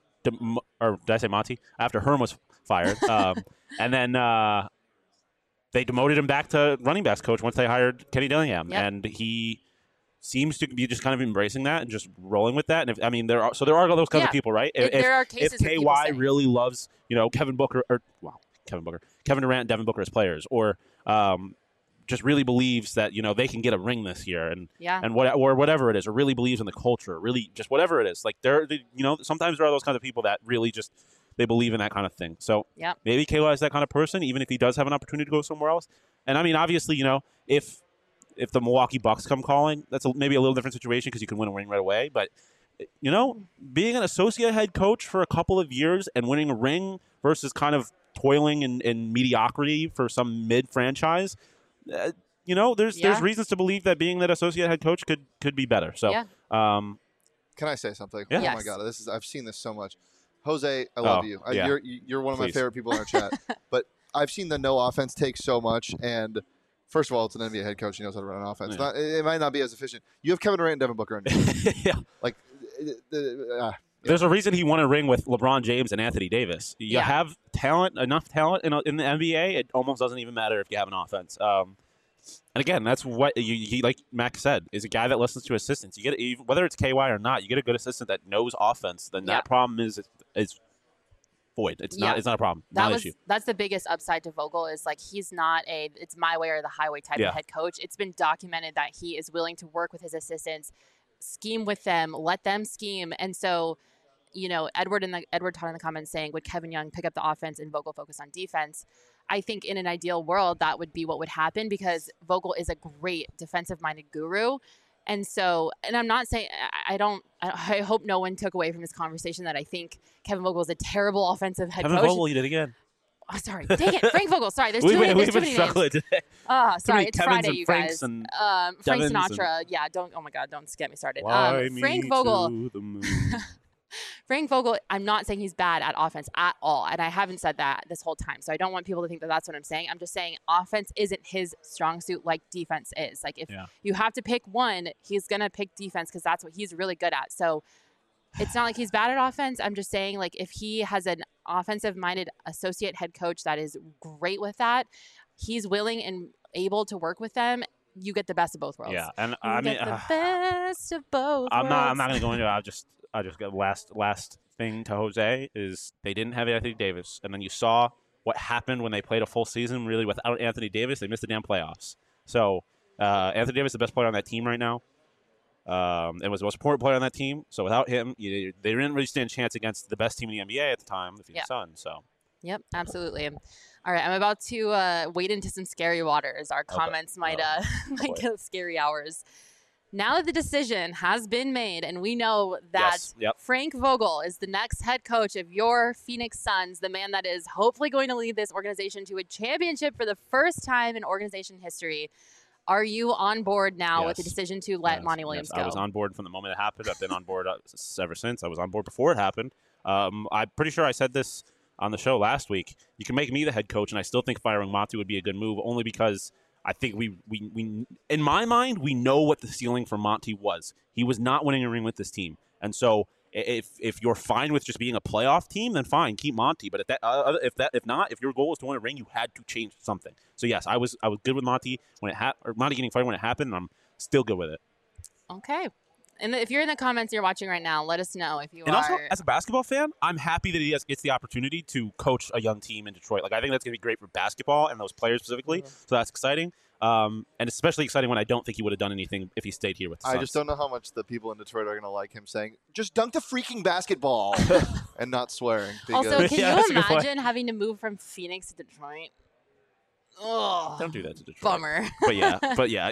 I say Monty? After Herm was fired, and then. They demoted him back to running backs coach once they hired Kenny Dillingham, and he seems to be just kind of embracing that and just rolling with that. And there are those kinds of people, right? There are cases if KY really loves Kevin Durant, Devin Booker as players, or just really believes that they can get a ring this year, and whatever it is, or really believes in the culture, really just whatever it is. Like sometimes there are those kinds of people that really just. They believe in that kind of thing. So maybe KY is that kind of person, even if he does have an opportunity to go somewhere else. And I mean, obviously, if the Milwaukee Bucks come calling, that's maybe a little different situation because you can win a ring right away. But, being an associate head coach for a couple of years and winning a ring versus kind of toiling in mediocrity for some mid-franchise, there's reasons to believe that being that associate head coach could be better. So, can I say something? Yeah. Oh, my God. I've seen this so much. Jose, I love you. You're one of my favorite people in our chat. But I've seen the no offense take so much. And first of all, it's an NBA head coach. He knows how to run an offense. Yeah. It might not be as efficient. You have Kevin Durant and Devin Booker in Like, there's a reason he won a ring with LeBron James and Anthony Davis. You have enough talent in the NBA. It almost doesn't even matter if you have an offense. And again, that's what he like Max said, is a guy that listens to assistants. You get whether it's KY or not, you get a good assistant that knows offense. Then that problem is void. It's not a problem. Not an issue. That's the biggest upside to Vogel is like he's not it's my way or the highway type of head coach. It's been documented that he is willing to work with his assistants, scheme with them, let them scheme. And so, Edward taught in the comments saying, would Kevin Young pick up the offense and Vogel focus on defense? I think in an ideal world, that would be what would happen because Vogel is a great defensive-minded guru. And so, and I'm not saying, I hope no one took away from this conversation that I think Kevin Vogel is a terrible offensive head coach. Kevin Vogel, you did again. Oh, sorry. Dang it. Frank Vogel. Sorry. There's too many names. Today. Oh, sorry. It's Kevins Friday, and you Franks guys. And Frank Devins Sinatra. Yeah. Oh my God. Don't get me started. Fly Frank me Vogel. to the moon. Frank Vogel, I'm not saying he's bad at offense at all. And I haven't said that this whole time. So I don't want people to think that that's what I'm saying. I'm just saying offense isn't his strong suit like defense is. Like if you have to pick one, he's going to pick defense because that's what he's really good at. So it's not like he's bad at offense. I'm just saying like if he has an offensive-minded associate head coach that is great with that, he's willing and able to work with them. You get the best of both worlds. Yeah, and I mean, the best of both. I'm not going to go into it. I just got last thing to Jose is they didn't have Anthony Davis, and then you saw what happened when they played a full season really without Anthony Davis. They missed the damn playoffs. So Anthony Davis is the best player on that team right now. And was the most important player on that team. So without him, they didn't really stand a chance against the best team in the NBA at the time, the Phoenix Suns. So. Yep, absolutely. All right, I'm about to wade into some scary waters. Our comments might get scary hours. Now that the decision has been made, and we know that Frank Vogel is the next head coach of your Phoenix Suns, the man that is hopefully going to lead this organization to a championship for the first time in organization history. Are you on board now with the decision to let Monty Williams go? I was on board from the moment it happened. I've been on board ever since. I was on board before it happened. I'm pretty sure I said this on the show last week. You can make me the head coach, and I still think firing Monty would be a good move, only because I think we in my mind, we know what the ceiling for Monty was. He was not winning a ring with this team. And so if you're fine with just being a playoff team, then fine, keep Monty. But if your goal is to win a ring, you had to change something. So yes, I was good with Monty Monty getting fired when it happened, and I'm still good with it. Okay. And if you're in the comments you're watching right now, let us know if you are. And also, as a basketball fan, I'm happy that he gets the opportunity to coach a young team in Detroit. Like, I think that's going to be great for basketball and those players specifically. So that's exciting. And especially exciting when I don't think he would have done anything if he stayed here with the Suns. I just don't know how much the people in Detroit are going to like him saying, just dunk the freaking basketball and not swearing. Also, can you imagine having to move from Phoenix to Detroit? Oh, don't do that to Detroit. Bummer. But yeah.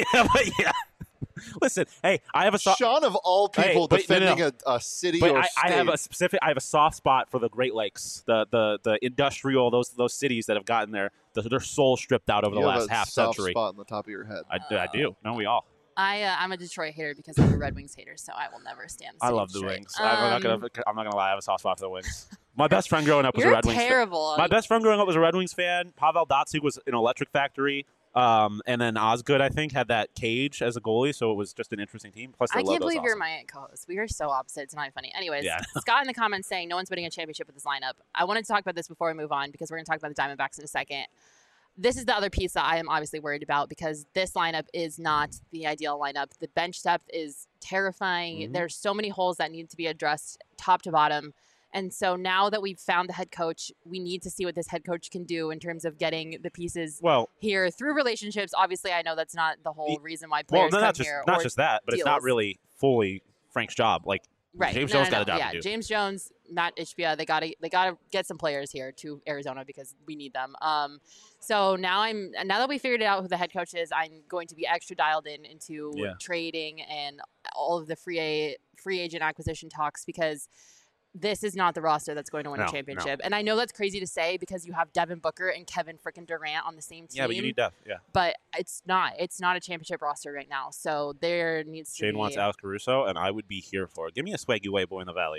Listen, hey, I have a Sean of all people defending a city or state. I have a soft spot for the Great Lakes, the industrial those cities that have gotten their soul stripped out over the last half century. Spot on the top of your head. I do. No, we all. I'm a Detroit hater because I'm a Red Wings hater, so I will never stand. I love the Wings. I'm not gonna lie. I have a soft spot for the Wings. My best friend growing up was a Red Wings fan. Terrible. My best friend growing up was a Red Wings fan. Pavel Datsyuk was in Electric Factory. And then Osgood, I think, had that Cage as a goalie, so it was just an interesting team. Plus, I can't believe you're my co-host. We are so opposite. It's not funny. Anyways, Scott in the comments saying no one's winning a championship with this lineup. I wanted to talk about this before we move on because we're going to talk about the Diamondbacks in a second. This is the other piece that I am obviously worried about because this lineup is not the ideal lineup. The bench depth is terrifying. Mm-hmm. There's so many holes that need to be addressed top to bottom. And so now that we've found the head coach, we need to see what this head coach can do in terms of getting the pieces here through relationships. Obviously, I know that's not the whole reason why players come here. Not just that, but deals. It's not really fully Frank's job. Like James Jones got a job to do. James Jones, Matt Ishbia, they gotta get some players here to Arizona because we need them. So now that we figured out who the head coach is, I'm going to be extra dialed into trading and all of the free agent acquisition talks because this is not the roster that's going to win a championship. And I know that's crazy to say because you have Devin Booker and Kevin frickin' Durant on the same team. Yeah, but you need Dev, But it's not a championship roster right now. So there needs to be... Shane wants Alex Caruso, and I would be here for it. Give me a swaggy way boy in the Valley.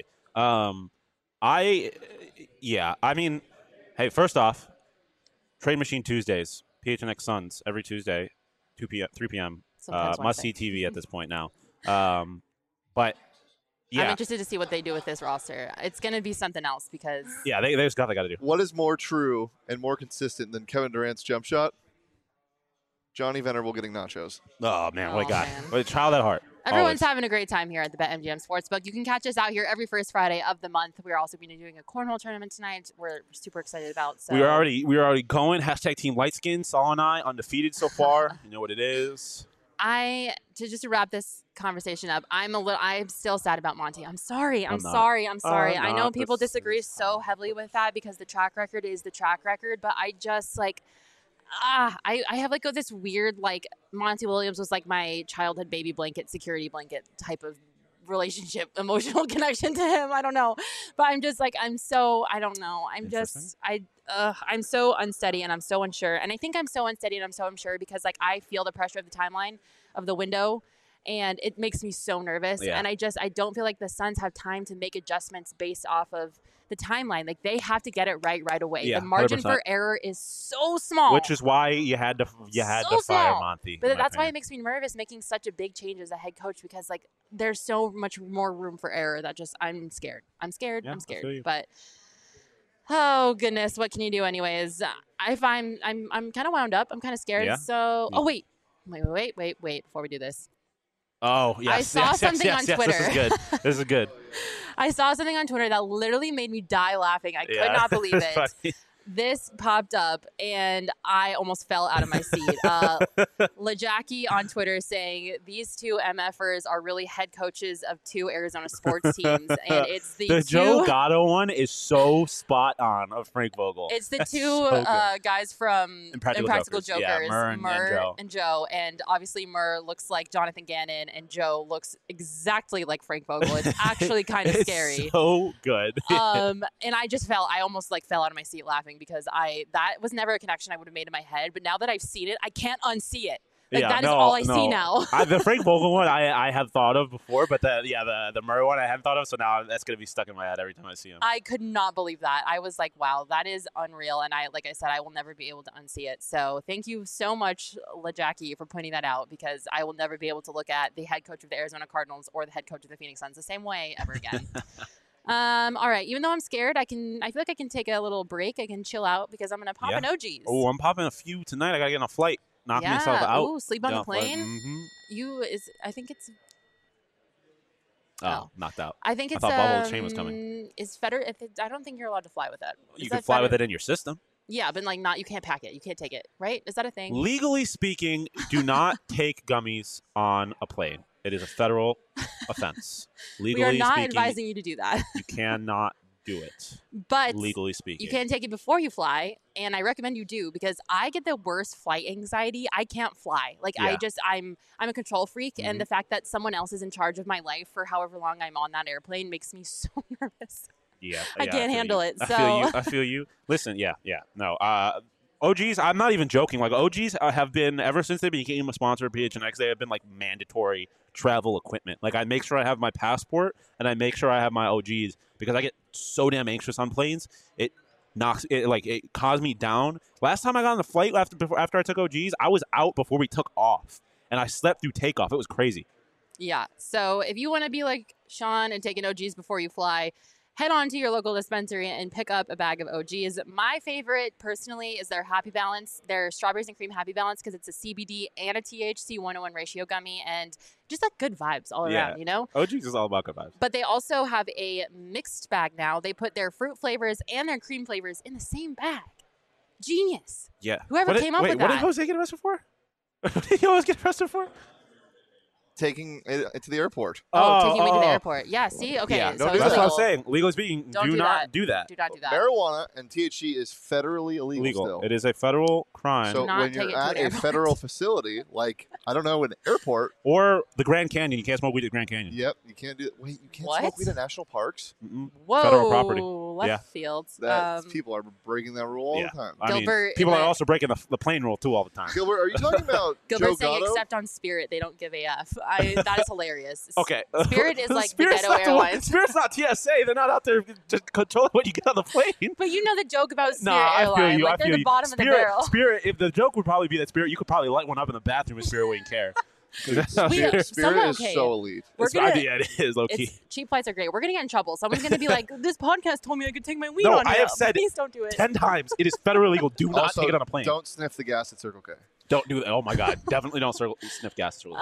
I mean, hey, first off, Trade Machine Tuesdays, PHNX Suns, every Tuesday, 3 p.m. Must-see TV at this point now. But... Yeah. I'm interested to see what they do with this roster. It's going to be something else because... Yeah, they got to do. What is more true and more consistent than Kevin Durant's jump shot? Johnny Venerable getting nachos. Oh, man. What a guy. Man. What a child at heart. Everyone's Always. having a great time here at the BetMGM Sportsbook. You can catch us out here every first Friday of the month. We're also going to be doing a cornhole tournament tonight. We're super excited about. So We are already going. Hashtag Team Lightskin. Saul and I undefeated so far. You know what it is. To wrap this conversation up, I'm still sad about Monty. I'm sorry. I'm not. sorry. I know not. people This disagree is so heavily with that because the track record is the track record, but I just I have this weird Monty Williams was like my childhood baby blanket, security blanket type of relationship, emotional connection to him. I don't know, but I'm just I'm so I don't know. I'm so unsteady and I'm so unsure, and I think I'm so unsteady and I'm so unsure because I feel the pressure of the timeline of the window. And it makes me so nervous. Yeah. And I don't feel like the Suns have time to make adjustments based off of the timeline. They have to get it right away. Yeah, the margin 100%. for error is so small. Which is why you had to fire small. Monty. But in my that's why it opinion. makes me nervous making such a big change as a head coach because there's so much more room for error that I'm scared. I'm scared. Yeah, I'm I scared. feel you. But oh goodness, what can you do anyways? I'm kind of wound up. I'm kind of scared. Yeah? So Yeah. wait before we do this. Oh, yes. I saw something on Twitter. This is good. This is good. I saw something on Twitter that literally made me die laughing. I could not believe It's it. funny. This popped up, and I almost fell out of my seat. LeJackie on Twitter saying, these two MFers are really head coaches of two Arizona sports teams. And it's the Joe two... Gatto one is so spot on of Frank Vogel. It's the That's two so good. guys from Impractical Jokers. Yeah, Murr and Joe. And obviously Murr looks like Jonathan Gannon, and Joe looks exactly like Frank Vogel. It's actually kind of It's scary. so good. And I almost fell out of my seat laughing because that was never a connection I would have made in my head. But now that I've seen it, I can't unsee it. That is all I see now. The Frank Vogel one I have thought of before, but the Murray one I haven't thought of, so now that's going to be stuck in my head every time I see him. I could not believe that. I was like, wow, that is unreal. And I said, I will never be able to unsee it. So thank you so much, LeJackie, for pointing that out because I will never be able to look at the head coach of the Arizona Cardinals or the head coach of the Phoenix Suns the same way ever again. All right. Even though I'm scared, I feel like I can take a little break. I can chill out because I'm going to pop an OGs. Oh, I'm popping a few tonight. I got to get on a flight. Knock myself out. Ooh, sleep on the plane. Mm-hmm. I think it's. Oh, knocked out. I think it's. I thought Bubble Chain was coming. I don't think you're allowed to fly with that. You can fly with it in your system. Yeah, but you can't pack it. You can't take it, right? Is that a thing? Legally speaking, do not take gummies on a plane. It is a federal offense. Legally we are not speaking, advising you to do that. you cannot do it. But legally speaking, you can take it before you fly, and I recommend you do because I get the worst flight anxiety. I can't fly. I'm a control freak, and the fact that someone else is in charge of my life for however long I'm on that airplane makes me so nervous. Yeah, I can't handle it. I feel you. Listen, no. OGs, I'm not even joking. OGs have been, ever since they became a sponsor of PHNX, they have been mandatory travel equipment. I make sure I have my passport and I make sure I have my OGs because I get so damn anxious on planes. It calms me down. Last time I got on the flight after I took OGs, I was out before we took off and I slept through takeoff. It was crazy. Yeah. So if you want to be like Sean and take an OGs before you fly, head on to your local dispensary and pick up a bag of OGs. My favorite, personally, is their Happy Balance, their Strawberries and Cream Happy Balance, because it's a CBD and a THC 101 ratio gummy, and just good vibes all around, OGs is all about good vibes. But they also have a mixed bag now. They put their fruit flavors and their cream flavors in the same bag. Genius. Yeah. Whoever came up with that. What did Jose get arrested for? What did he always get arrested for? Taking it to the airport. Taking me to the airport. Yeah, see? Okay. Yeah, so that's what I'm saying. Legally speaking, do not do that. Do not do that. Marijuana and THC is federally illegal still. It is a federal crime. So when you're at a federal facility, I don't know, an airport. Or the Grand Canyon. You can't smoke weed at Grand Canyon. Yep. You can't do it. Wait, you can't smoke weed at national parks? Mm-mm. Whoa. Federal property. Left fields. People are breaking that rule all the time. Gilbert, people are also breaking the plane rule, too, all the time. Gilbert, are you talking about Gilbert Joe saying Gatto? except on Spirit, they don't give AF. That is hilarious. Okay. Spirit is like Spirit's the ghetto airlines. Spirit's not TSA. They're not out there just controlling what you get on the plane. But you know the joke about Spirit I Airlines. feel you. They're the bottom of the barrel. Spirit, if the joke would probably be that Spirit, you could probably light one up in the bathroom and Spirit wouldn't care. Spirit is so elite. It is low key. Cheap flights are great. We're gonna get in trouble. Someone's gonna be like, "This podcast told me I could take my weed on." I have said please don't do it. 10 times. It is federally illegal. Do not Also, take it on a plane. Don't sniff the gas at Circle K. Don't do that. Oh my God. Definitely don't sniff gas. Really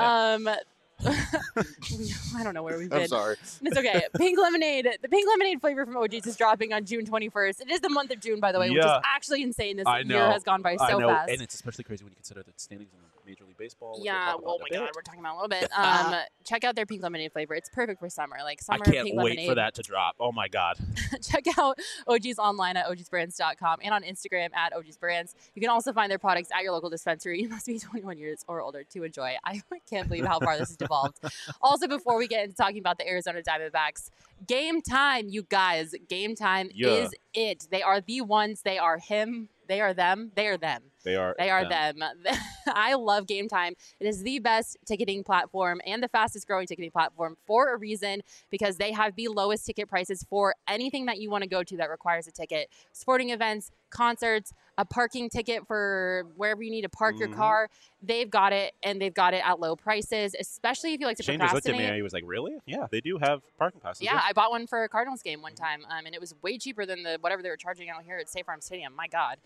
I don't know where we've been. I'm sorry. It's okay. Pink lemonade. The pink lemonade flavor from OG's is dropping on June 21st. It is the month of June, by the way, which is actually insane. This year has gone by so fast. And it's especially crazy when you consider the standings in Major League Baseball. Yeah, oh my God, we're talking about a little bit. Check out their pink lemonade flavor. It's perfect for summer. Like summer I can't pink wait lemonade. for that to drop. Oh my God. Check out OG's online at ogsbrands.com and on Instagram at ogsbrands. You can also find their products at your local dispensary. You must be 21 years or older to enjoy. I can't believe how far this has devolved. Also, before we get into talking about the Arizona Diamondbacks, Game Time, you guys. Game Time is it. They are the ones. They are him. They are them. They are them. They are them. I love Game Time. It is the best ticketing platform and the fastest growing ticketing platform for a reason, because they have the lowest ticket prices for anything that you want to go to that requires a ticket. Sporting events, concerts, a parking ticket for wherever you need to park your car. They've got it, and they've got it at low prices, especially if you like to Shane procrastinate. just looked at me and he was like, really? Yeah, they do have parking passes. Yeah, I bought one for a Cardinals game one time, and it was way cheaper than whatever they were charging out here at State Farm Stadium. My God.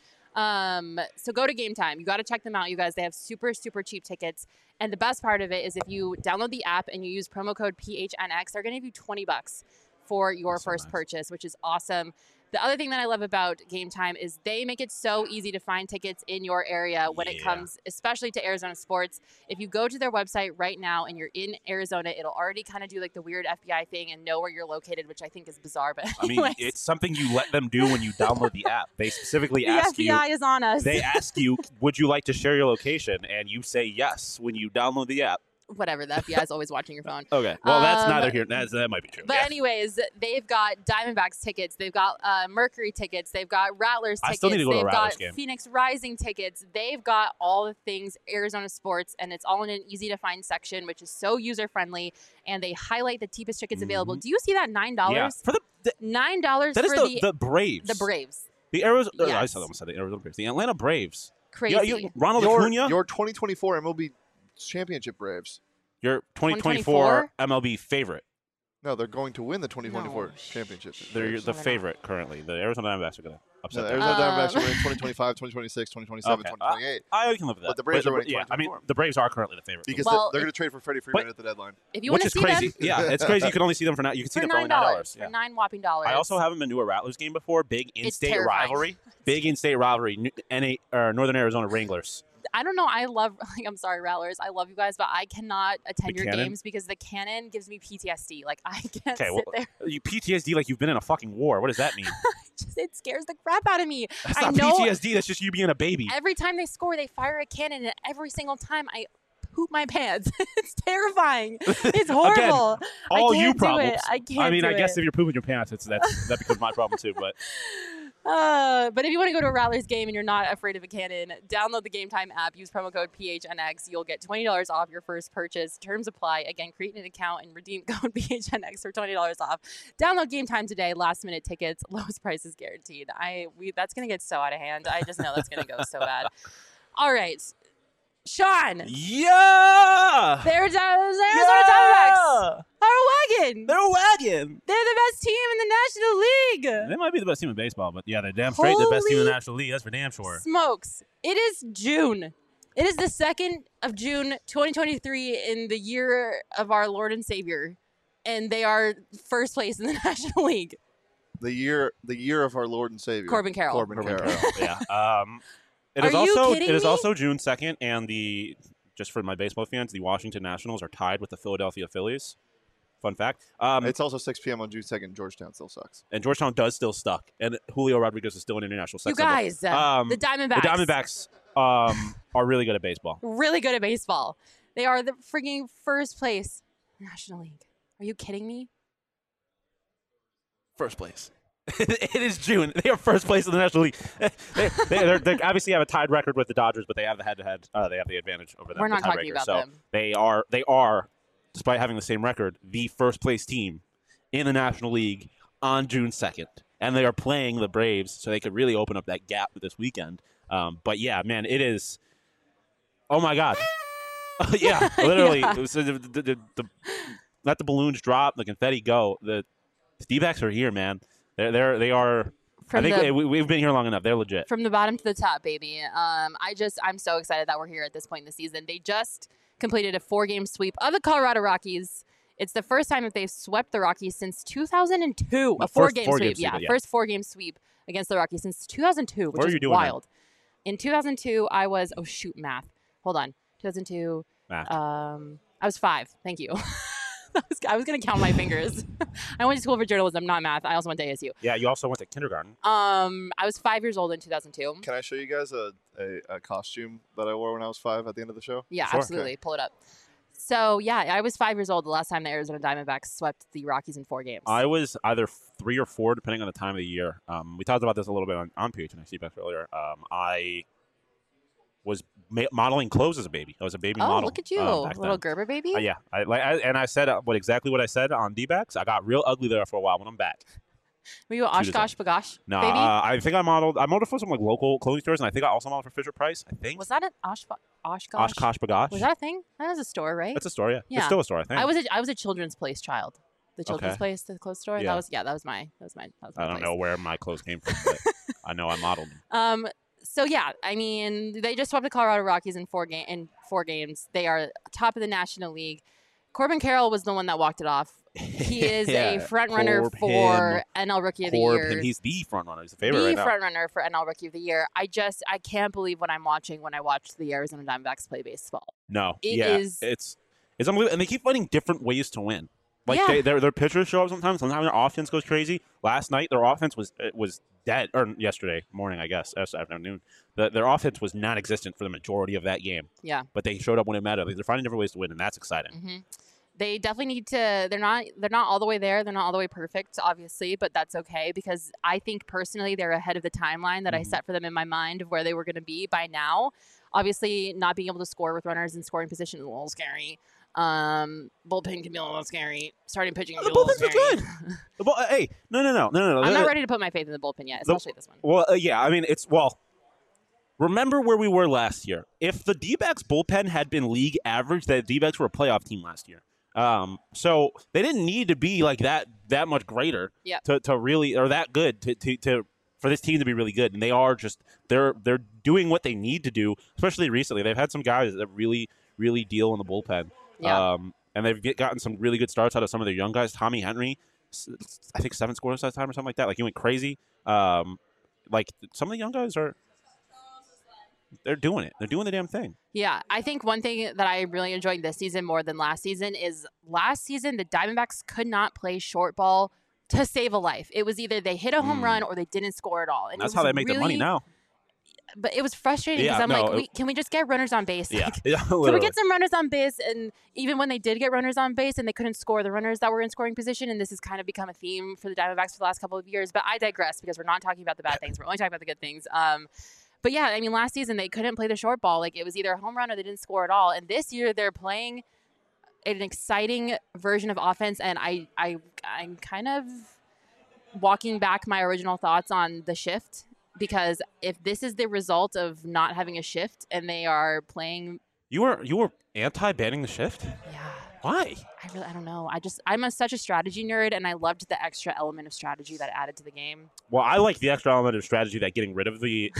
So go to Game Time. You got to check them out, you guys. They have super, super cheap tickets. And the best part of it is if you download the app and you use promo code PHNX, they're going to give you $20 for your first purchase, which is awesome. The other thing that I love about Game Time is they make it so easy to find tickets in your area when it comes, especially to Arizona sports. If you go to their website right now and you're in Arizona, it'll already kind of do like the weird FBI thing and know where you're located, which I think is bizarre. But I mean, it's something you let them do when you download the app. They specifically ask you. The FBI is on us. They ask you, would you like to share your location? And you say yes when you download the app. Whatever, the FBI is always watching your phone. Okay, well, that's neither here. That might be true. But anyways, they've got Diamondbacks tickets. They've got Mercury tickets. They've got Rattlers tickets. I still need to go to a Rattlers game. They've got Phoenix Rising tickets. They've got all the things Arizona sports, and it's all in an easy-to-find section, which is so user-friendly, and they highlight the cheapest tickets available. Do you see that $9? Yeah, for the $9 that for is the Braves. The Braves. The Arizona. Yes. I almost said the Arizona Braves. The Atlanta Braves. Crazy. Ronald Acuna. Your 2024 MLB Championship Braves. Your 2024 MLB favorite. No, they're going to win the 2024 championship. They're the favorite currently. The Arizona Diamondbacks are going to upset them. The Arizona Diamondbacks are winning 2025, 2026, 2027, 2028. I can live with that. But the Braves are winning 2024. I mean, the Braves are currently the favorite. Because they're going to trade for Freddie Freeman at the deadline. If you want to see crazy. them. Yeah, it's crazy. You can only see them for $9. You can see them for only $9. For $9 whopping dollars. I also haven't been to a Rattlers game before. Big in-state rivalry. Big in-state rivalry. Northern Arizona Wranglers. I don't know. I'm sorry, Rattlers. I love you guys, but I cannot attend your games because the cannon gives me PTSD. Like, I can't sit there. You PTSD like you've been in a fucking war. What does that mean? It scares the crap out of me. That's not PTSD. That's just you being a baby. Every time they score, they fire a cannon, and every single time I poop my pants. It's terrifying. It's horrible. Again, all you problems. I can't. I mean, I guess if you're pooping your pants, that becomes my problem too. But if you want to go to a Rattlers game and you're not afraid of a cannon, download the Game Time app. Use promo code PHNX. You'll get $20 off your first purchase. Terms apply. Again, create an account and redeem code PHNX for $20 off. Download Game Time today. Last minute tickets. Lowest prices guaranteed. That's going to get so out of hand. I just know that's going to go so bad. All right. Sean. Yeah. There's Arizona Diamondbacks. They're a wagon. They're the best team in the National League. They might be the best team in baseball, but yeah, they're damn straight the best team in the National League. That's for damn sure. Smokes. It is June. It is the 2nd of June, 2023, in the year of our Lord and Savior, and they are first place in the National League. The year of our Lord and Savior, Corbin Carroll. Corbin Carroll. Yeah. It is also June 2nd, and just for my baseball fans, the Washington Nationals are tied with the Philadelphia Phillies. Fun fact. It's also 6 p.m. on June 2nd. Georgetown still sucks. And Georgetown does still suck. And Julio Rodriguez is still an international sex You guys, the Diamondbacks. The Diamondbacks are really good at baseball. Really good at baseball. They are the freaking first place in the National League. Are you kidding me? First place. It is June. They are first place in the National League. They obviously have a tied record with the Dodgers, but they have the head-to-head. They have the advantage over them. We're not talking about them. They are, despite having the same record, the first place team in the National League on June 2nd. And they are playing the Braves, so they could really open up that gap this weekend. But yeah, man, it is. Oh my God. Yeah, literally. Yeah. So let the balloons drop, the confetti go. The D-backs are here, man. They are I think we've been here long enough. They're legit. From the bottom to the top, baby. I'm so excited that we're here at this point in the season. They just completed a 4-game sweep of the Colorado Rockies. It's the first time that they've swept the Rockies since 2002. A 4-game sweep. Yeah, first 4-game sweep against the Rockies since 2002, which is wild. In 2002, I was math. Hold on. 2002. Math. I was 5. Thank you. I was going to count my fingers. I went to school for journalism, not math. I also went to ASU. Yeah, you also went to kindergarten. I was 5 years old in 2002. Can I show you guys a costume that I wore when I was 5 at the end of the show? Yeah, sure. Absolutely. Okay. Pull it up. So, yeah, I was 5 years old the last time the Arizona Diamondbacks swept the Rockies in 4 games. I was either 3 or 4, depending on the time of the year. We talked about this a little bit on PHNX back earlier. I was modeling clothes as a baby. I was a baby model. Oh, look at you. Little Gerber baby? Yeah. I said exactly what I said on D-backs. I got real ugly there for a while when I'm back. Were you Oshkosh Bagosh no, baby? I think I modeled for some local clothing stores, and I think I also modeled for Fisher Price, I think. Was that an Oshkosh? Oshkosh Bagosh. Was that a thing? That was a store, right? That's a store, yeah. It's still a store, I think. I was a Children's Place child. The Children's Place, the clothes store. Yeah. That was my I don't know where my clothes came from, but I know I modeled them. So yeah, I mean, they just swept the Colorado Rockies in 4 games. They are top of the National League. Corbin Carroll was the one that walked it off. He is a front runner for NL Rookie of the Year. He's the front runner. He's the favorite right now. The front runner for NL Rookie of the Year. I can't believe what I'm watching when I watch the Arizona Diamondbacks play baseball. No, it's unbelievable, and they keep finding different ways to win. Their pitchers show up sometimes. Sometimes their offense goes crazy. Last night, their offense was dead. Or yesterday morning, I guess, afternoon. Their offense was non-existent for the majority of that game. Yeah. But they showed up when it mattered. They're finding different ways to win, and that's exciting. Mm-hmm. They definitely need to. They're not all the way there. They're not all the way perfect, obviously, but that's okay because I think personally they're ahead of the timeline that I set for them in my mind of where they were going to be by now. Obviously, not being able to score with runners in scoring position is a little scary. Bullpen can be a little scary. Starting pitching can be a little scary. The bullpens are good. Hey, no. I'm not ready to put my faith in the bullpen yet, especially this one. Well, yeah, I mean, remember where we were last year. If the D-backs bullpen had been league average, the D-backs were a playoff team last year. So they didn't need to be like that much greater to really, or that good to for this team to be really good. And they are just, they're doing what they need to do, especially recently. They've had some guys that really, really deal in the bullpen. Yeah. And they've gotten some really good starts out of some of their young guys. Tommy Henry, I think 7 scores that time or something like that. Like, he went crazy. Like, some of the young guys they're doing it. They're doing the damn thing. Yeah. I think one thing that I really enjoyed this season more than last season is last season the Diamondbacks could not play short ball to save a life. It was either they hit a home run or they didn't score at all. And that's how they make their money now. But it was frustrating because can we just get runners on base? Yeah. Can we get some runners on base? And even when they did get runners on base and they couldn't score the runners that were in scoring position, and this has kind of become a theme for the Diamondbacks for the last couple of years. But I digress because we're not talking about the bad things. We're only talking about the good things. But yeah, I mean, last season they couldn't play the short ball. Like, it was either a home run or they didn't score at all. And this year they're playing an exciting version of offense. And I'm kind of walking back my original thoughts on the shift, because if this is the result of not having a shift and they are playing, you were anti-banning the shift? Yeah. Why? I don't know. I'm such a strategy nerd, and I loved the extra element of strategy that added to the game. Well, I like the extra element of strategy that getting rid of the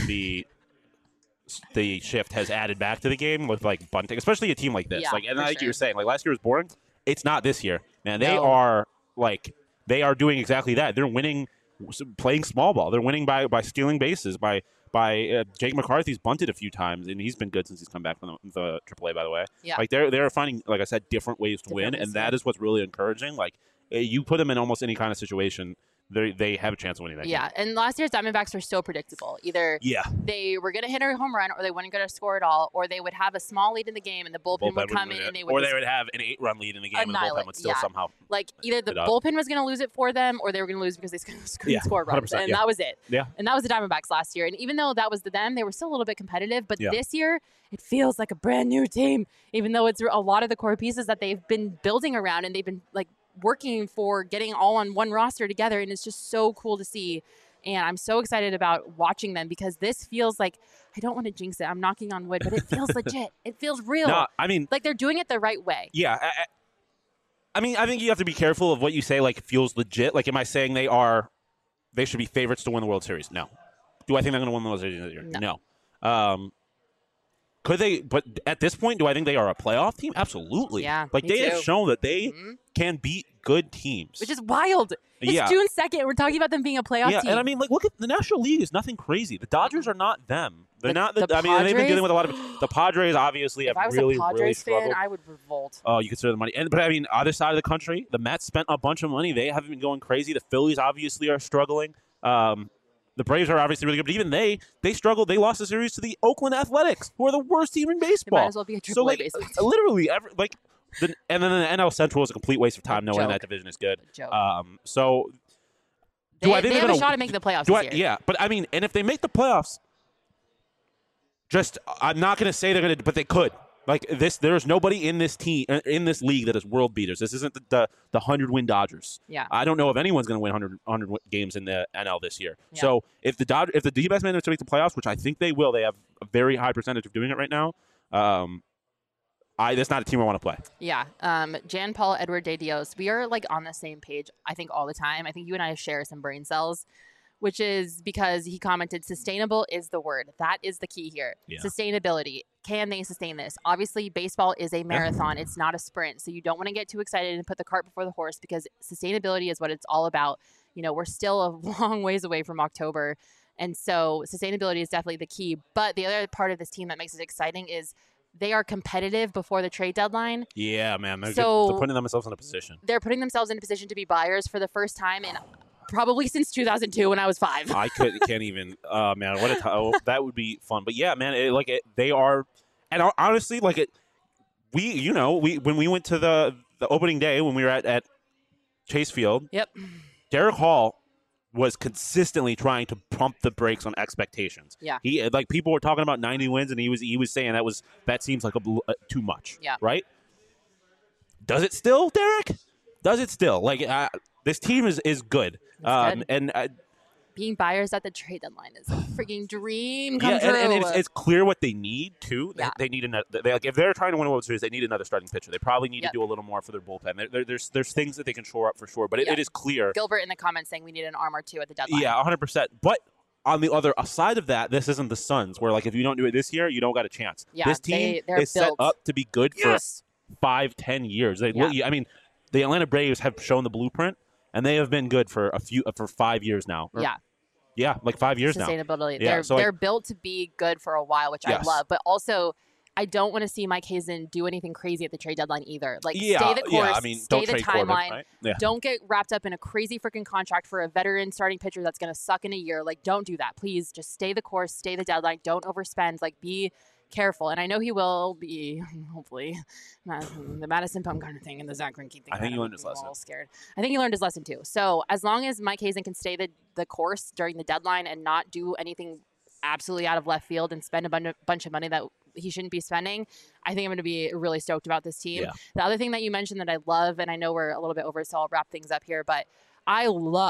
shift has added back to the game with, like, bunting, especially a team like this. Yeah, you were saying, like, last year was boring. It's not this year, man. They are doing exactly that. They're winning, playing small ball. They're winning by stealing bases, by Jake McCarthy's bunted a few times, and he's been good since he's come back from the AAA, by the way. Yeah. Like, they're finding, like I said, different ways to win, and that is what's really encouraging. Like, you put them in almost any kind of situation, they have a chance of winning that game. Yeah, and last year's Diamondbacks were so predictable. Either they were going to hit a home run, or they weren't going to score at all, or they would have a small lead in the game, and the bullpen would come in, and they would, or they would have an 8-run lead in the game, and the bullpen would still somehow, like, either the bullpen was going to lose it for them, or they were going to lose because they couldn't score runs, and that was it. Yeah, and that was the Diamondbacks last year. And even though that was them, they were still a little bit competitive. But this year, it feels like a brand new team, even though it's a lot of the core pieces that they've been building around, and they've been, like, working for getting all on one roster together, and it's just so cool to see. And I'm so excited about watching them, because this feels like, I don't want to jinx it, I'm knocking on wood, but it feels legit. It feels real. No, I mean, like, they're doing it the right way. Yeah. I mean, I think you have to be careful of what you say, like, feels legit. Like, am I saying they are they should be favorites to win the World Series? No. Do I think they're going to win the World Series this year? No. Could they? But at this point, do I think they are a playoff team? Absolutely. Yeah, like they too. have shown that they can beat good teams, which is wild. It's June 2nd. We're talking about them being a playoff team. Yeah, and I mean, look at the National League is nothing crazy. The Dodgers are not them. They're not. The I mean, they've been dealing with a lot of the Padres. Obviously, if have I was really, a Padres really fan, struggled. I would revolt. Oh, you consider the money, but I mean, other side of the country, the Mets spent a bunch of money. They haven't been going crazy. The Phillies obviously are struggling. The Braves are obviously really good, but even they struggled. They lost the series to the Oakland Athletics, who are the worst team in baseball. It might as well be a AAA baseball team. Literally, and then the NL Central is a complete waste of time, knowing that division is good. So, do I think they they're have a shot at making the playoffs this year? Yeah, but I mean, and if they make the playoffs, I'm not going to say they're going to, but they could. Like this, there's nobody in this team in this league that is world beaters. This isn't the 100-win Dodgers. Yeah, I don't know if anyone's going to win 100 games in the NL this year. Yeah. So if the D-backs manage to make the playoffs, which I think they will, they have a very high percentage of doing it right now. That's not a team I want to play. Yeah, Jan Paul Edward De Dios, we are like on the same page. I think all the time. I think you and I share some brain cells. Which is because he commented, sustainable is the word. That is the key here. Yeah. Sustainability. Can they sustain this? Obviously, baseball is a marathon. It's not a sprint. So you don't want to get too excited and put the cart before the horse because sustainability is what it's all about. You know, we're still a long ways away from October. And so sustainability is definitely the key. But the other part of this team that makes it exciting is they are competitive before the trade deadline. Yeah, man. They're putting themselves in a position. They're putting themselves in a position to be buyers for the first time in probably since 2002 when I was 5. I can't even. Man, what a that would be fun. But yeah, man, they are, and honestly, when we went to the opening day when we were at Chase Field. Yep. Derek Hall was consistently trying to pump the brakes on expectations. Yeah. He people were talking about 90 wins, and he was saying that seems like too much. Yeah. Right. Does it still, Derek? Does it still? This team is good. And being buyers at the trade deadline is a freaking dream come true. And it's clear what they need too. Yeah. They need another. If they're trying to win a World Series, they need another starting pitcher. They probably need to do a little more for their bullpen. There's things that they can shore up for sure, but it is clear. Gilbert in the comments saying we need an arm or two at the deadline. Yeah, 100%. But on the other side of that, this isn't the Suns, where if you don't do it this year, you don't got a chance. Yeah, this team is set up to be good for 5-10 years. I mean, the Atlanta Braves have shown the blueprint. And they have been good for 5 years now. Yeah, like 5 years now. Sustainability. Yeah, they're built to be good for a while, which I love. But also, I don't want to see Mike Hazen do anything crazy at the trade deadline either. Stay the course, stay the timeline. Corbin, right? Yeah. Don't get wrapped up in a crazy freaking contract for a veteran starting pitcher that's going to suck in a year. Don't do that. Please just stay the course, stay the deadline. Don't overspend. Be careful. And I know he will be, hopefully, the Madison Bumgarner thing and the Zach Greinke thing. I think he learned his lesson. All scared. I think he learned his lesson too. So as long as Mike Hazen can stay the course during the deadline and not do anything absolutely out of left field and spend a bunch of money that he shouldn't be spending, I think I'm going to be really stoked about this team. Yeah. The other thing that you mentioned that I love, and I know we're a little bit over, so I'll wrap things up here, but I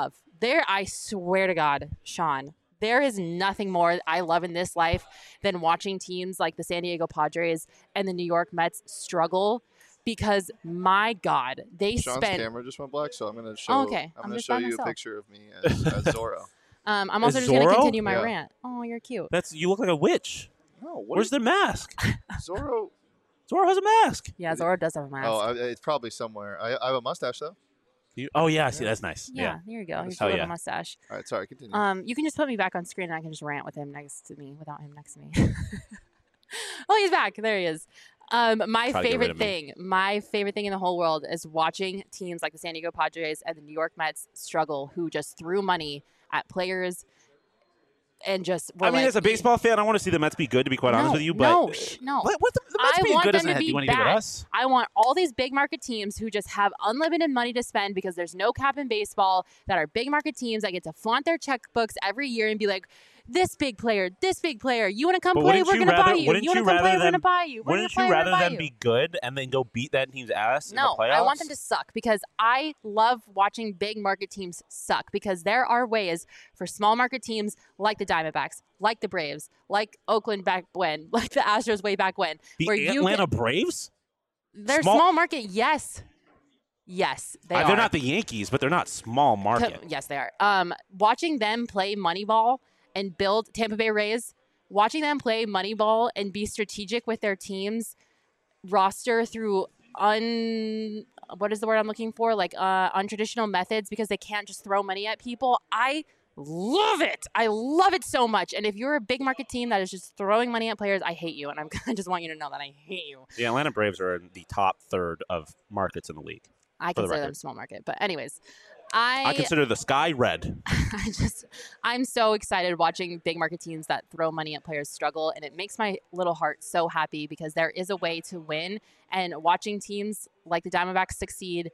swear to God, Sean, there is nothing more I love in this life than watching teams like the San Diego Padres and the New York Mets struggle because, my God, Sean's camera just went black, so I'm going to show, I'm going to show you a picture of me as Zorro. I'm also just going to continue my rant. Oh, you're cute. You look like a witch. No, where's their mask? Zorro has a mask. Yeah, Zorro does have a mask. Oh, it's probably somewhere. I have a mustache, though. I see. That's nice. Yeah, there you go. He's a little mustache. All right, sorry, continue. You can just put me back on screen and I can just rant with him next to me without him next to me. Oh, he's back. There he is. My favorite thing in the whole world is watching teams like the San Diego Padres and the New York Mets struggle, who just threw money at players and just were as a baseball fan, I want to see the Mets be good, to be quite honest with you. But no. The Mets being good doesn't have to do anything with us. I want all these big market teams who just have unlimited money to spend because there's no cap in baseball, that are big market teams that get to flaunt their checkbooks every year and be like, this big player, you want to come play, we're going to buy you. You want to come play, we're going to buy you. Wouldn't you rather them be good and then go beat that team's ass in the playoffs? No, I want them to suck because I love watching big market teams suck because there are ways for small market teams like the Diamondbacks, like the Braves, like Oakland back when, like the Astros way back when. The Atlanta Braves? They're small market, yes. Yes, they are. They're not the Yankees, but they're not small market. Yes, they are. Watching them play Moneyball and build Tampa Bay Rays, watching them play Moneyball and be strategic with their team's roster through what is the word I'm looking for? Like untraditional methods, because they can't just throw money at people. I love it. I love it so much. And if you're a big market team that is just throwing money at players, I hate you. And I just want you to know that I hate you. The Atlanta Braves are in the top third of markets in the league. I consider them small market. But anyways, I consider the sky red. I'm so excited watching big market teams that throw money at players struggle, and it makes my little heart so happy because there is a way to win. And watching teams like the Diamondbacks succeed,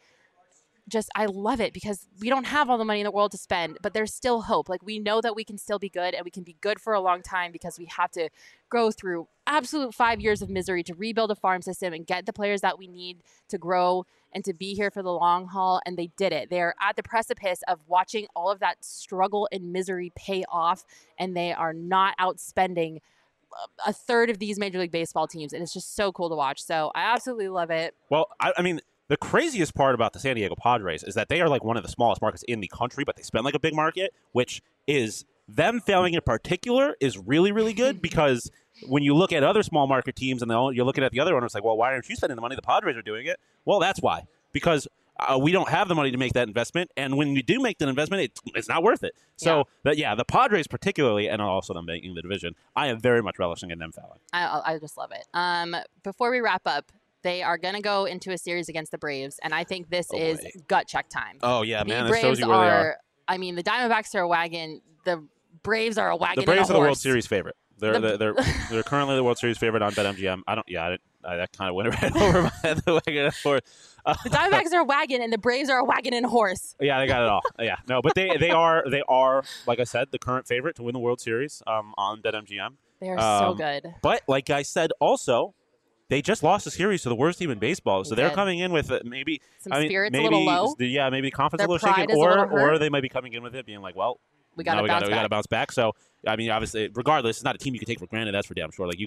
I love it because we don't have all the money in the world to spend, but there's still hope. Like, we know that we can still be good, and we can be good for a long time because we have to go through absolute 5 years of misery to rebuild a farm system and get the players that we need to grow and to be here for the long haul. And they did it. They're at the precipice of watching all of that struggle and misery pay off, and they are not outspending a third of these Major League Baseball teams. And it's just so cool to watch. So I absolutely love it. Well, I mean, the craziest part about the San Diego Padres is that they are like one of the smallest markets in the country, but they spend like a big market, which is them failing in particular is really, really good because when you look at other small market teams and you're looking at the other owners like, well, why aren't you spending the money? The Padres are doing it. Well, that's why. Because we don't have the money to make that investment. And when you do make that investment, it's not worth it. So, the Padres particularly, and also them making the division, I am very much relishing in them failing. I just love it. Before we wrap up, they are going to go into a series against the Braves, and I think this is gut check time. Oh, yeah, man. The This shows you where they are. I mean, the Diamondbacks are a wagon. The Braves are a wagon. The Braves are the World Series favorite. They're currently the World Series favorite on BetMGM. That kind of went right over my head. The wagon and horse. The Diamondbacks are a wagon, and the Braves are a wagon and horse. Yeah, they got it all. Yeah, no, but they are like I said, the current favorite to win the World Series on BetMGM. They are so good. But like I said, also. They just lost a series to the worst team in baseball, so they're coming in with maybe spirits a little low. Yeah, maybe confidence a little shaken, or they might be coming in with it being like, well, we got to bounce back. So I mean, obviously, regardless, it's not a team you can take for granted. That's for damn sure. Like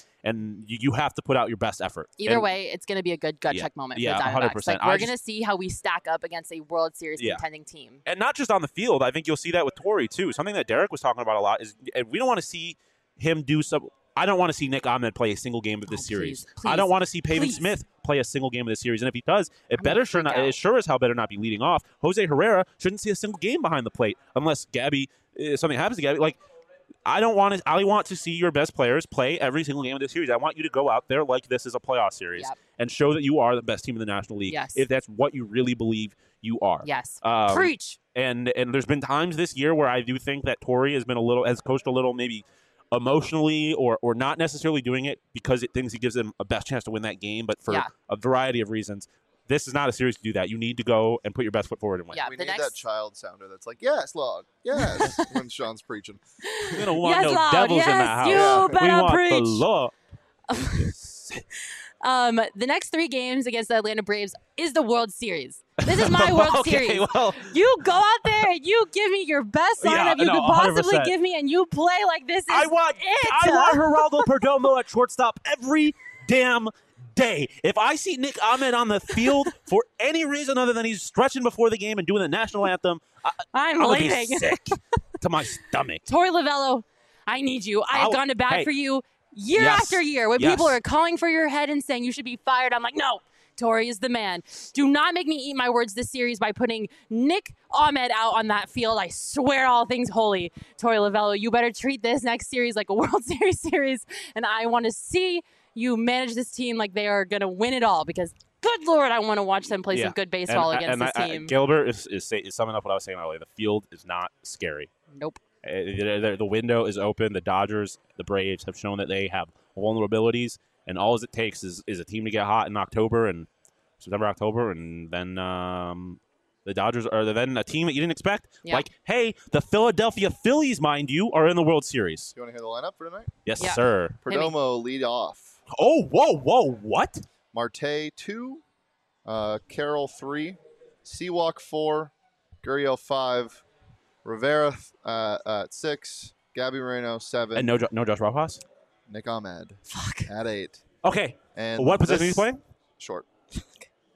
you have to put out your best effort. Either way, it's going to be a good gut check moment for the Diamondbacks. 100%. Like, we're going to see how we stack up against a World Series contending team, and not just on the field. I think you'll see that with Torrey too. Something that Derek was talking about a lot is we don't want to see him do some. I don't want to see Nick Ahmed play a single game of this series. Please, I don't want to see Pavin Smith play a single game of this series. And if he does, it sure as hell better not be leading off. Jose Herrera shouldn't see a single game behind the plate unless something happens to Gabby. Like, I want to see your best players play every single game of this series. I want you to go out there like this is a playoff series and show that you are the best team in the National League. Yes. If that's what you really believe you are. Yes. Preach. And there's been times this year where I do think that Torrey has coached a little maybe emotionally or not necessarily doing it because it thinks he gives them a best chance to win that game, but for a variety of reasons. This is not a series to do that. You need to go and put your best foot forward and win. Yeah, we need that child sounder that's like, yes, Log, yes, when Sean's preaching. We don't want no devils in the house. You better we want preach. the law. The next 3 games against the Atlanta Braves is the World Series. This is my World Series. Well, you go out there and you give me your best lineup you could possibly 100%. give me, and you play like this is I want Geraldo Perdomo at shortstop every damn day. If I see Nick Ahmed on the field for any reason other than he's stretching before the game and doing the national anthem, I'm be sick to my stomach. Torey Lovullo, I need you. I have gone to bat for you year after year. When people are calling for your head and saying you should be fired, I'm like, no. Torrey is the man. Do not make me eat my words this series by putting Nick Ahmed out on that field. I swear all things holy. Torey Lovullo, you better treat this next series like a World Series, and I want to see you manage this team like they are going to win it all because, good Lord, I want to watch them play some good baseball against this team. Gilbert is summing up what I was saying earlier. The field is not scary. Nope. The window is open. The Dodgers, the Braves have shown that they have vulnerabilities. And all it takes is a team to get hot in September, October, and then the Dodgers are then a team that you didn't expect. Yeah. Like, hey, the Philadelphia Phillies, mind you, are in the World Series. You want to hear the lineup for tonight? Yes, sir. Perdomo lead off. Oh, whoa, what? Marte 2, Carroll 3, Seawalk 4, Gurriel 5, Rivera at 6, Gabby Moreno 7. And no Josh Rojas? Nick Ahmed. Fuck. At 8. Okay. And what position are you playing? Short.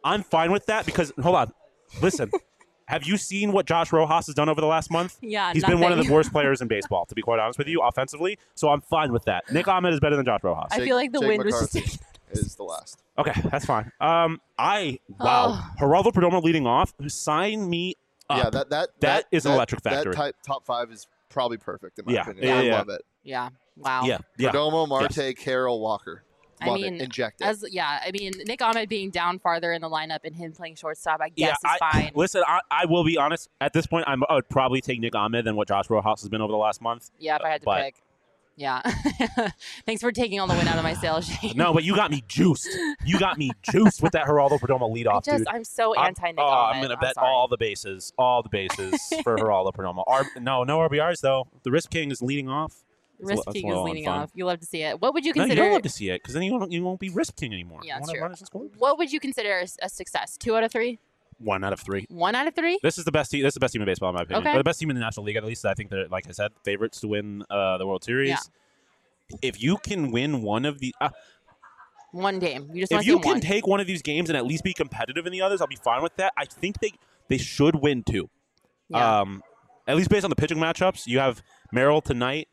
I'm fine with that because hold on, listen. Have you seen what Josh Rojas has done over the last month? Yeah, he's been one of the worst players in baseball, to be quite honest with you, offensively. So I'm fine with that. Nick Ahmed is better than Josh Rojas. I feel like the wind was just is the last. Okay, that's fine. Geraldo Perdomo leading off. Sign me up. Yeah, that is an electric factory. That top 5 is probably perfect in my opinion. Yeah, I love it. Yeah. Wow. Yeah. Perdomo, Marte, Carroll, Walker. Love it. Inject it. Nick Ahmed being down farther in the lineup and him playing shortstop, I guess is fine. Listen, I will be honest. At this point, I would probably take Nick Ahmed than what Josh Rojas has been over the last month. Yeah, if I had to pick. Yeah. Thanks for taking all the wind out of my sails, Shane. No, but you got me juiced. You got me juiced with that Geraldo Perdomo leadoff, dude. I'm so anti-Nick Ahmed. I'm going to bet all the bases for Geraldo Perdomo. No RBRs, though. The Risk King is leading off. Risk King is leading off. You love to see it. What would you consider? No, you don't love to see it because then you won't be Risk King anymore. Yeah, true. What would you consider a success? 2 out of 3? 1 out of 3. 1 out of 3? This is the best team. This is the best team in baseball, in my opinion. Okay. But the best team in the National League, at least. I think they're, like I said, favorites to win the World Series. Yeah. If you can win one of the one game, if you can take one of these games and at least be competitive in the others, I'll be fine with that. I think they should win 2. Yeah. At least based on the pitching matchups, you have Merrill tonight.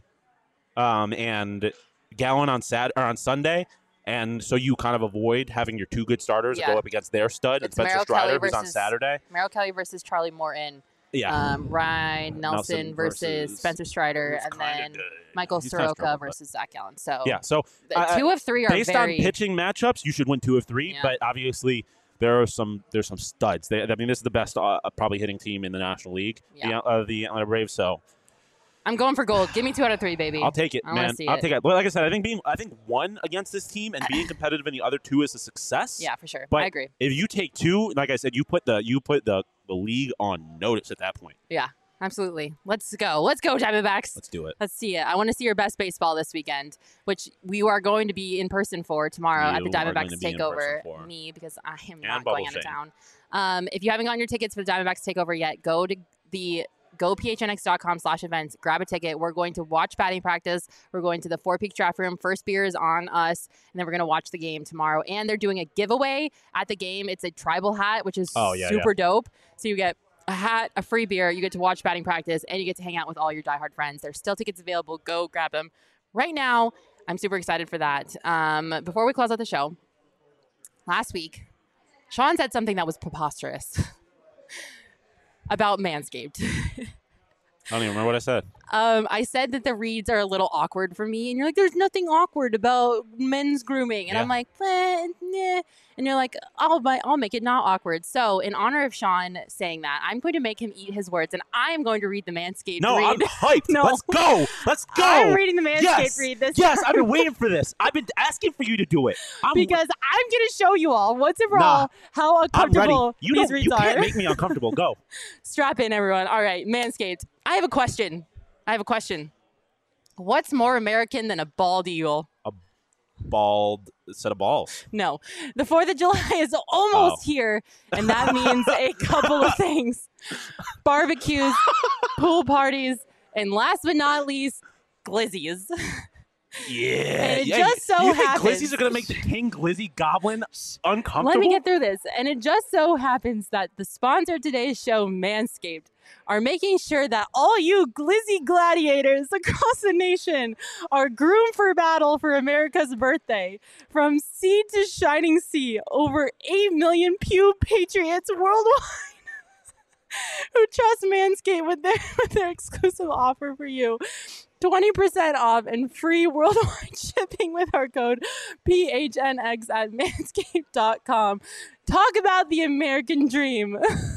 And Gallen on Sunday, and so you kind of avoid having your 2 good starters go up against their stud. It's Spencer Strider, who's on Saturday. Merrill Kelly versus Charlie Morton. Yeah. Ryan Nelson versus Spencer Strider, and then Michael Soroka versus Zach Gallen. So yeah, so 2 of 3 are based on pitching matchups. You should win 2 of 3, but obviously there's some studs. This is the best probably hitting team in the National League. Yeah. The Atlanta Braves. So. I'm going for gold. Give me 2 out of 3, baby. I'll take it, man. I'll take it. Well, like I said, I think 1 against this team and being competitive in the other 2 is a success. Yeah, for sure. But I agree. If you take 2, like I said, you put the league on notice at that point. Yeah, absolutely. Let's go. Let's go, Diamondbacks. Let's do it. Let's see it. I want to see your best baseball this weekend, which we are going to be in person for tomorrow at the Diamondbacks Takeover. Me, because I am not going out of town. If you haven't gotten your tickets for the Diamondbacks Takeover yet, go to the gophnx.com/events. Grab a ticket. We're going to watch batting practice. We're going to the Four Peaks draft room. First beer is on us, and then we're going to watch the game tomorrow. And they're doing a giveaway at the game. It's a tribal hat, which is super dope. So you get a hat, a free beer. You get to watch batting practice, and you get to hang out with all your diehard friends. There's still tickets available. Go grab them right now. I'm super excited for that. Before we close out the show, last week, Sean said something that was preposterous. About Manscaped. I don't even remember what I said. I said that the reads are a little awkward for me, and you're like, "There's nothing awkward about men's grooming," and I'm like, "Nah," and you're like, "I'll make it not awkward." So, in honor of Sean saying that, I'm going to make him eat his words, and I am going to read the Manscaped read. I'm hyped. No. Let's go. I'm reading the Manscaped read. Yes, I've been waiting for this. I've been asking for you to do it. Because I'm going to show you all once and for all how uncomfortable these reads are. You can't make me uncomfortable. Go. Strap in, everyone. All right, Manscaped. I have a question. What's more American than a bald eagle? A bald set of balls. No. The 4th of July is almost here, and that means a couple of things. Barbecues, pool parties, and last but not least, glizzies. Yeah. And it just so you happens. Think glizzies are going to make the King Glizzy Goblin uncomfortable? Let me get through this. And it just so happens that the sponsor of today's show, Manscaped, are making sure that all you glizzy gladiators across the nation are groomed for battle for America's birthday. From sea to shining sea, over 8 million Pew Patriots worldwide who trust Manscaped with their exclusive offer for you. 20% off and free worldwide shipping with our code PHNX at manscaped.com. Talk about the American dream.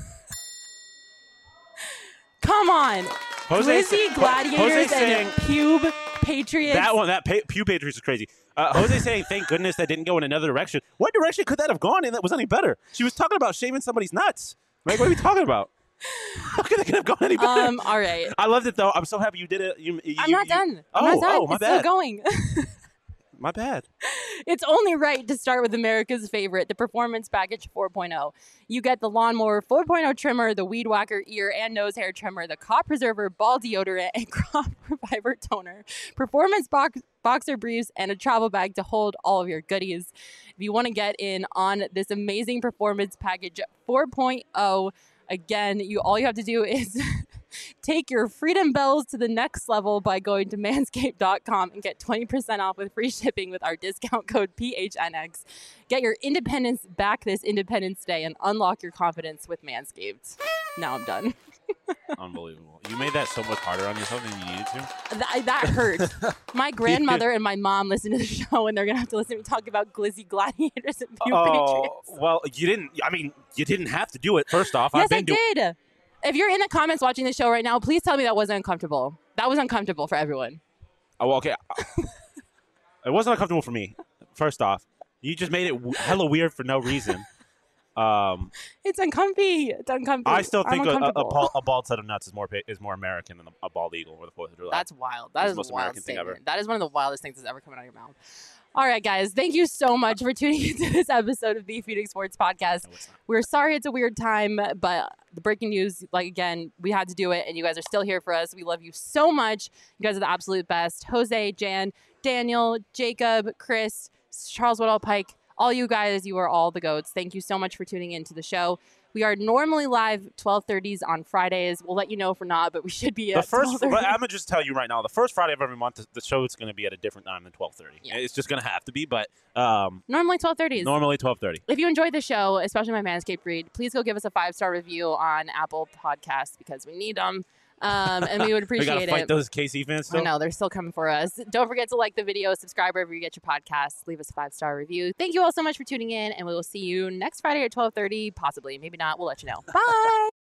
Come on. Glizzy Gladiators and Pube Patriots. Pew Patriots is crazy. Jose saying, thank goodness that didn't go in another direction. What direction could that have gone in that was any better? She was talking about shaving somebody's nuts. Like, what are we talking about? How could it have gone any better? All right. I loved it, though. I'm so happy you did it. I'm not done. I'm not done. My it's bad. still going. My bad. It's only right to start with America's favorite, the Performance Package 4.0. You get the Lawnmower 4.0 trimmer, the Weed Whacker ear and nose hair trimmer, the Crop Preserver ball deodorant, and Crop Reviver toner, Performance boxer briefs, and a travel bag to hold all of your goodies. If you want to get in on this amazing Performance Package 4.0, again, all you have to do is take your freedom bells to the next level by going to manscaped.com and get 20% off with free shipping with our discount code PHNX. Get your independence back this Independence Day and unlock your confidence with Manscaped. Now I'm done. Unbelievable. You made that so much harder on yourself than you needed to. That hurt. My grandmother and my mom listen to the show, and they're going to have to listen to me talk about glizzy gladiators and pew patriots. Well, you didn't have to do it, first off. Yes, I did. If you're in the comments watching the show right now, please tell me that wasn't uncomfortable. That was uncomfortable for everyone. Oh, okay. It wasn't uncomfortable for me, first off. You just made it hella weird for no reason. It's uncomfy. It's uncomfy. I still think a bald set of nuts is more American than a bald eagle or the 4th of July. That's wild. That is the most American thing ever. That is one of the wildest things that's ever come out of your mouth. All right, guys. Thank you so much for tuning into this episode of the Phoenix Sports Podcast. No, it's not. We're sorry it's a weird time, but the breaking news, again, we had to do it, and you guys are still here for us. We love you so much. You guys are the absolute best. Jose, Jan, Daniel, Jacob, Chris, Charles Woodall Pike, all you guys, you are all the goats. Thank you so much for tuning into the show. We are normally live 12:30s on Fridays. We'll let you know if we're not, but we should be at 12:30. I'm going to just tell you right now, the first Friday of every month, the show is going to be at a different time than 12:30. Yeah. It's just going to have to be, but... normally 12:30s. Normally 12:30. If you enjoyed the show, especially my Manscaped read, please go give us a 5-star review on Apple Podcasts because we need them. And we would appreciate it. We got to fight those KC fans still? I know, they're still coming for us. Don't forget to like the video, subscribe wherever you get your podcasts, leave us a 5-star review. Thank you all so much for tuning in, and we will see you next Friday at 12:30, possibly. Maybe not. We'll let you know. Bye!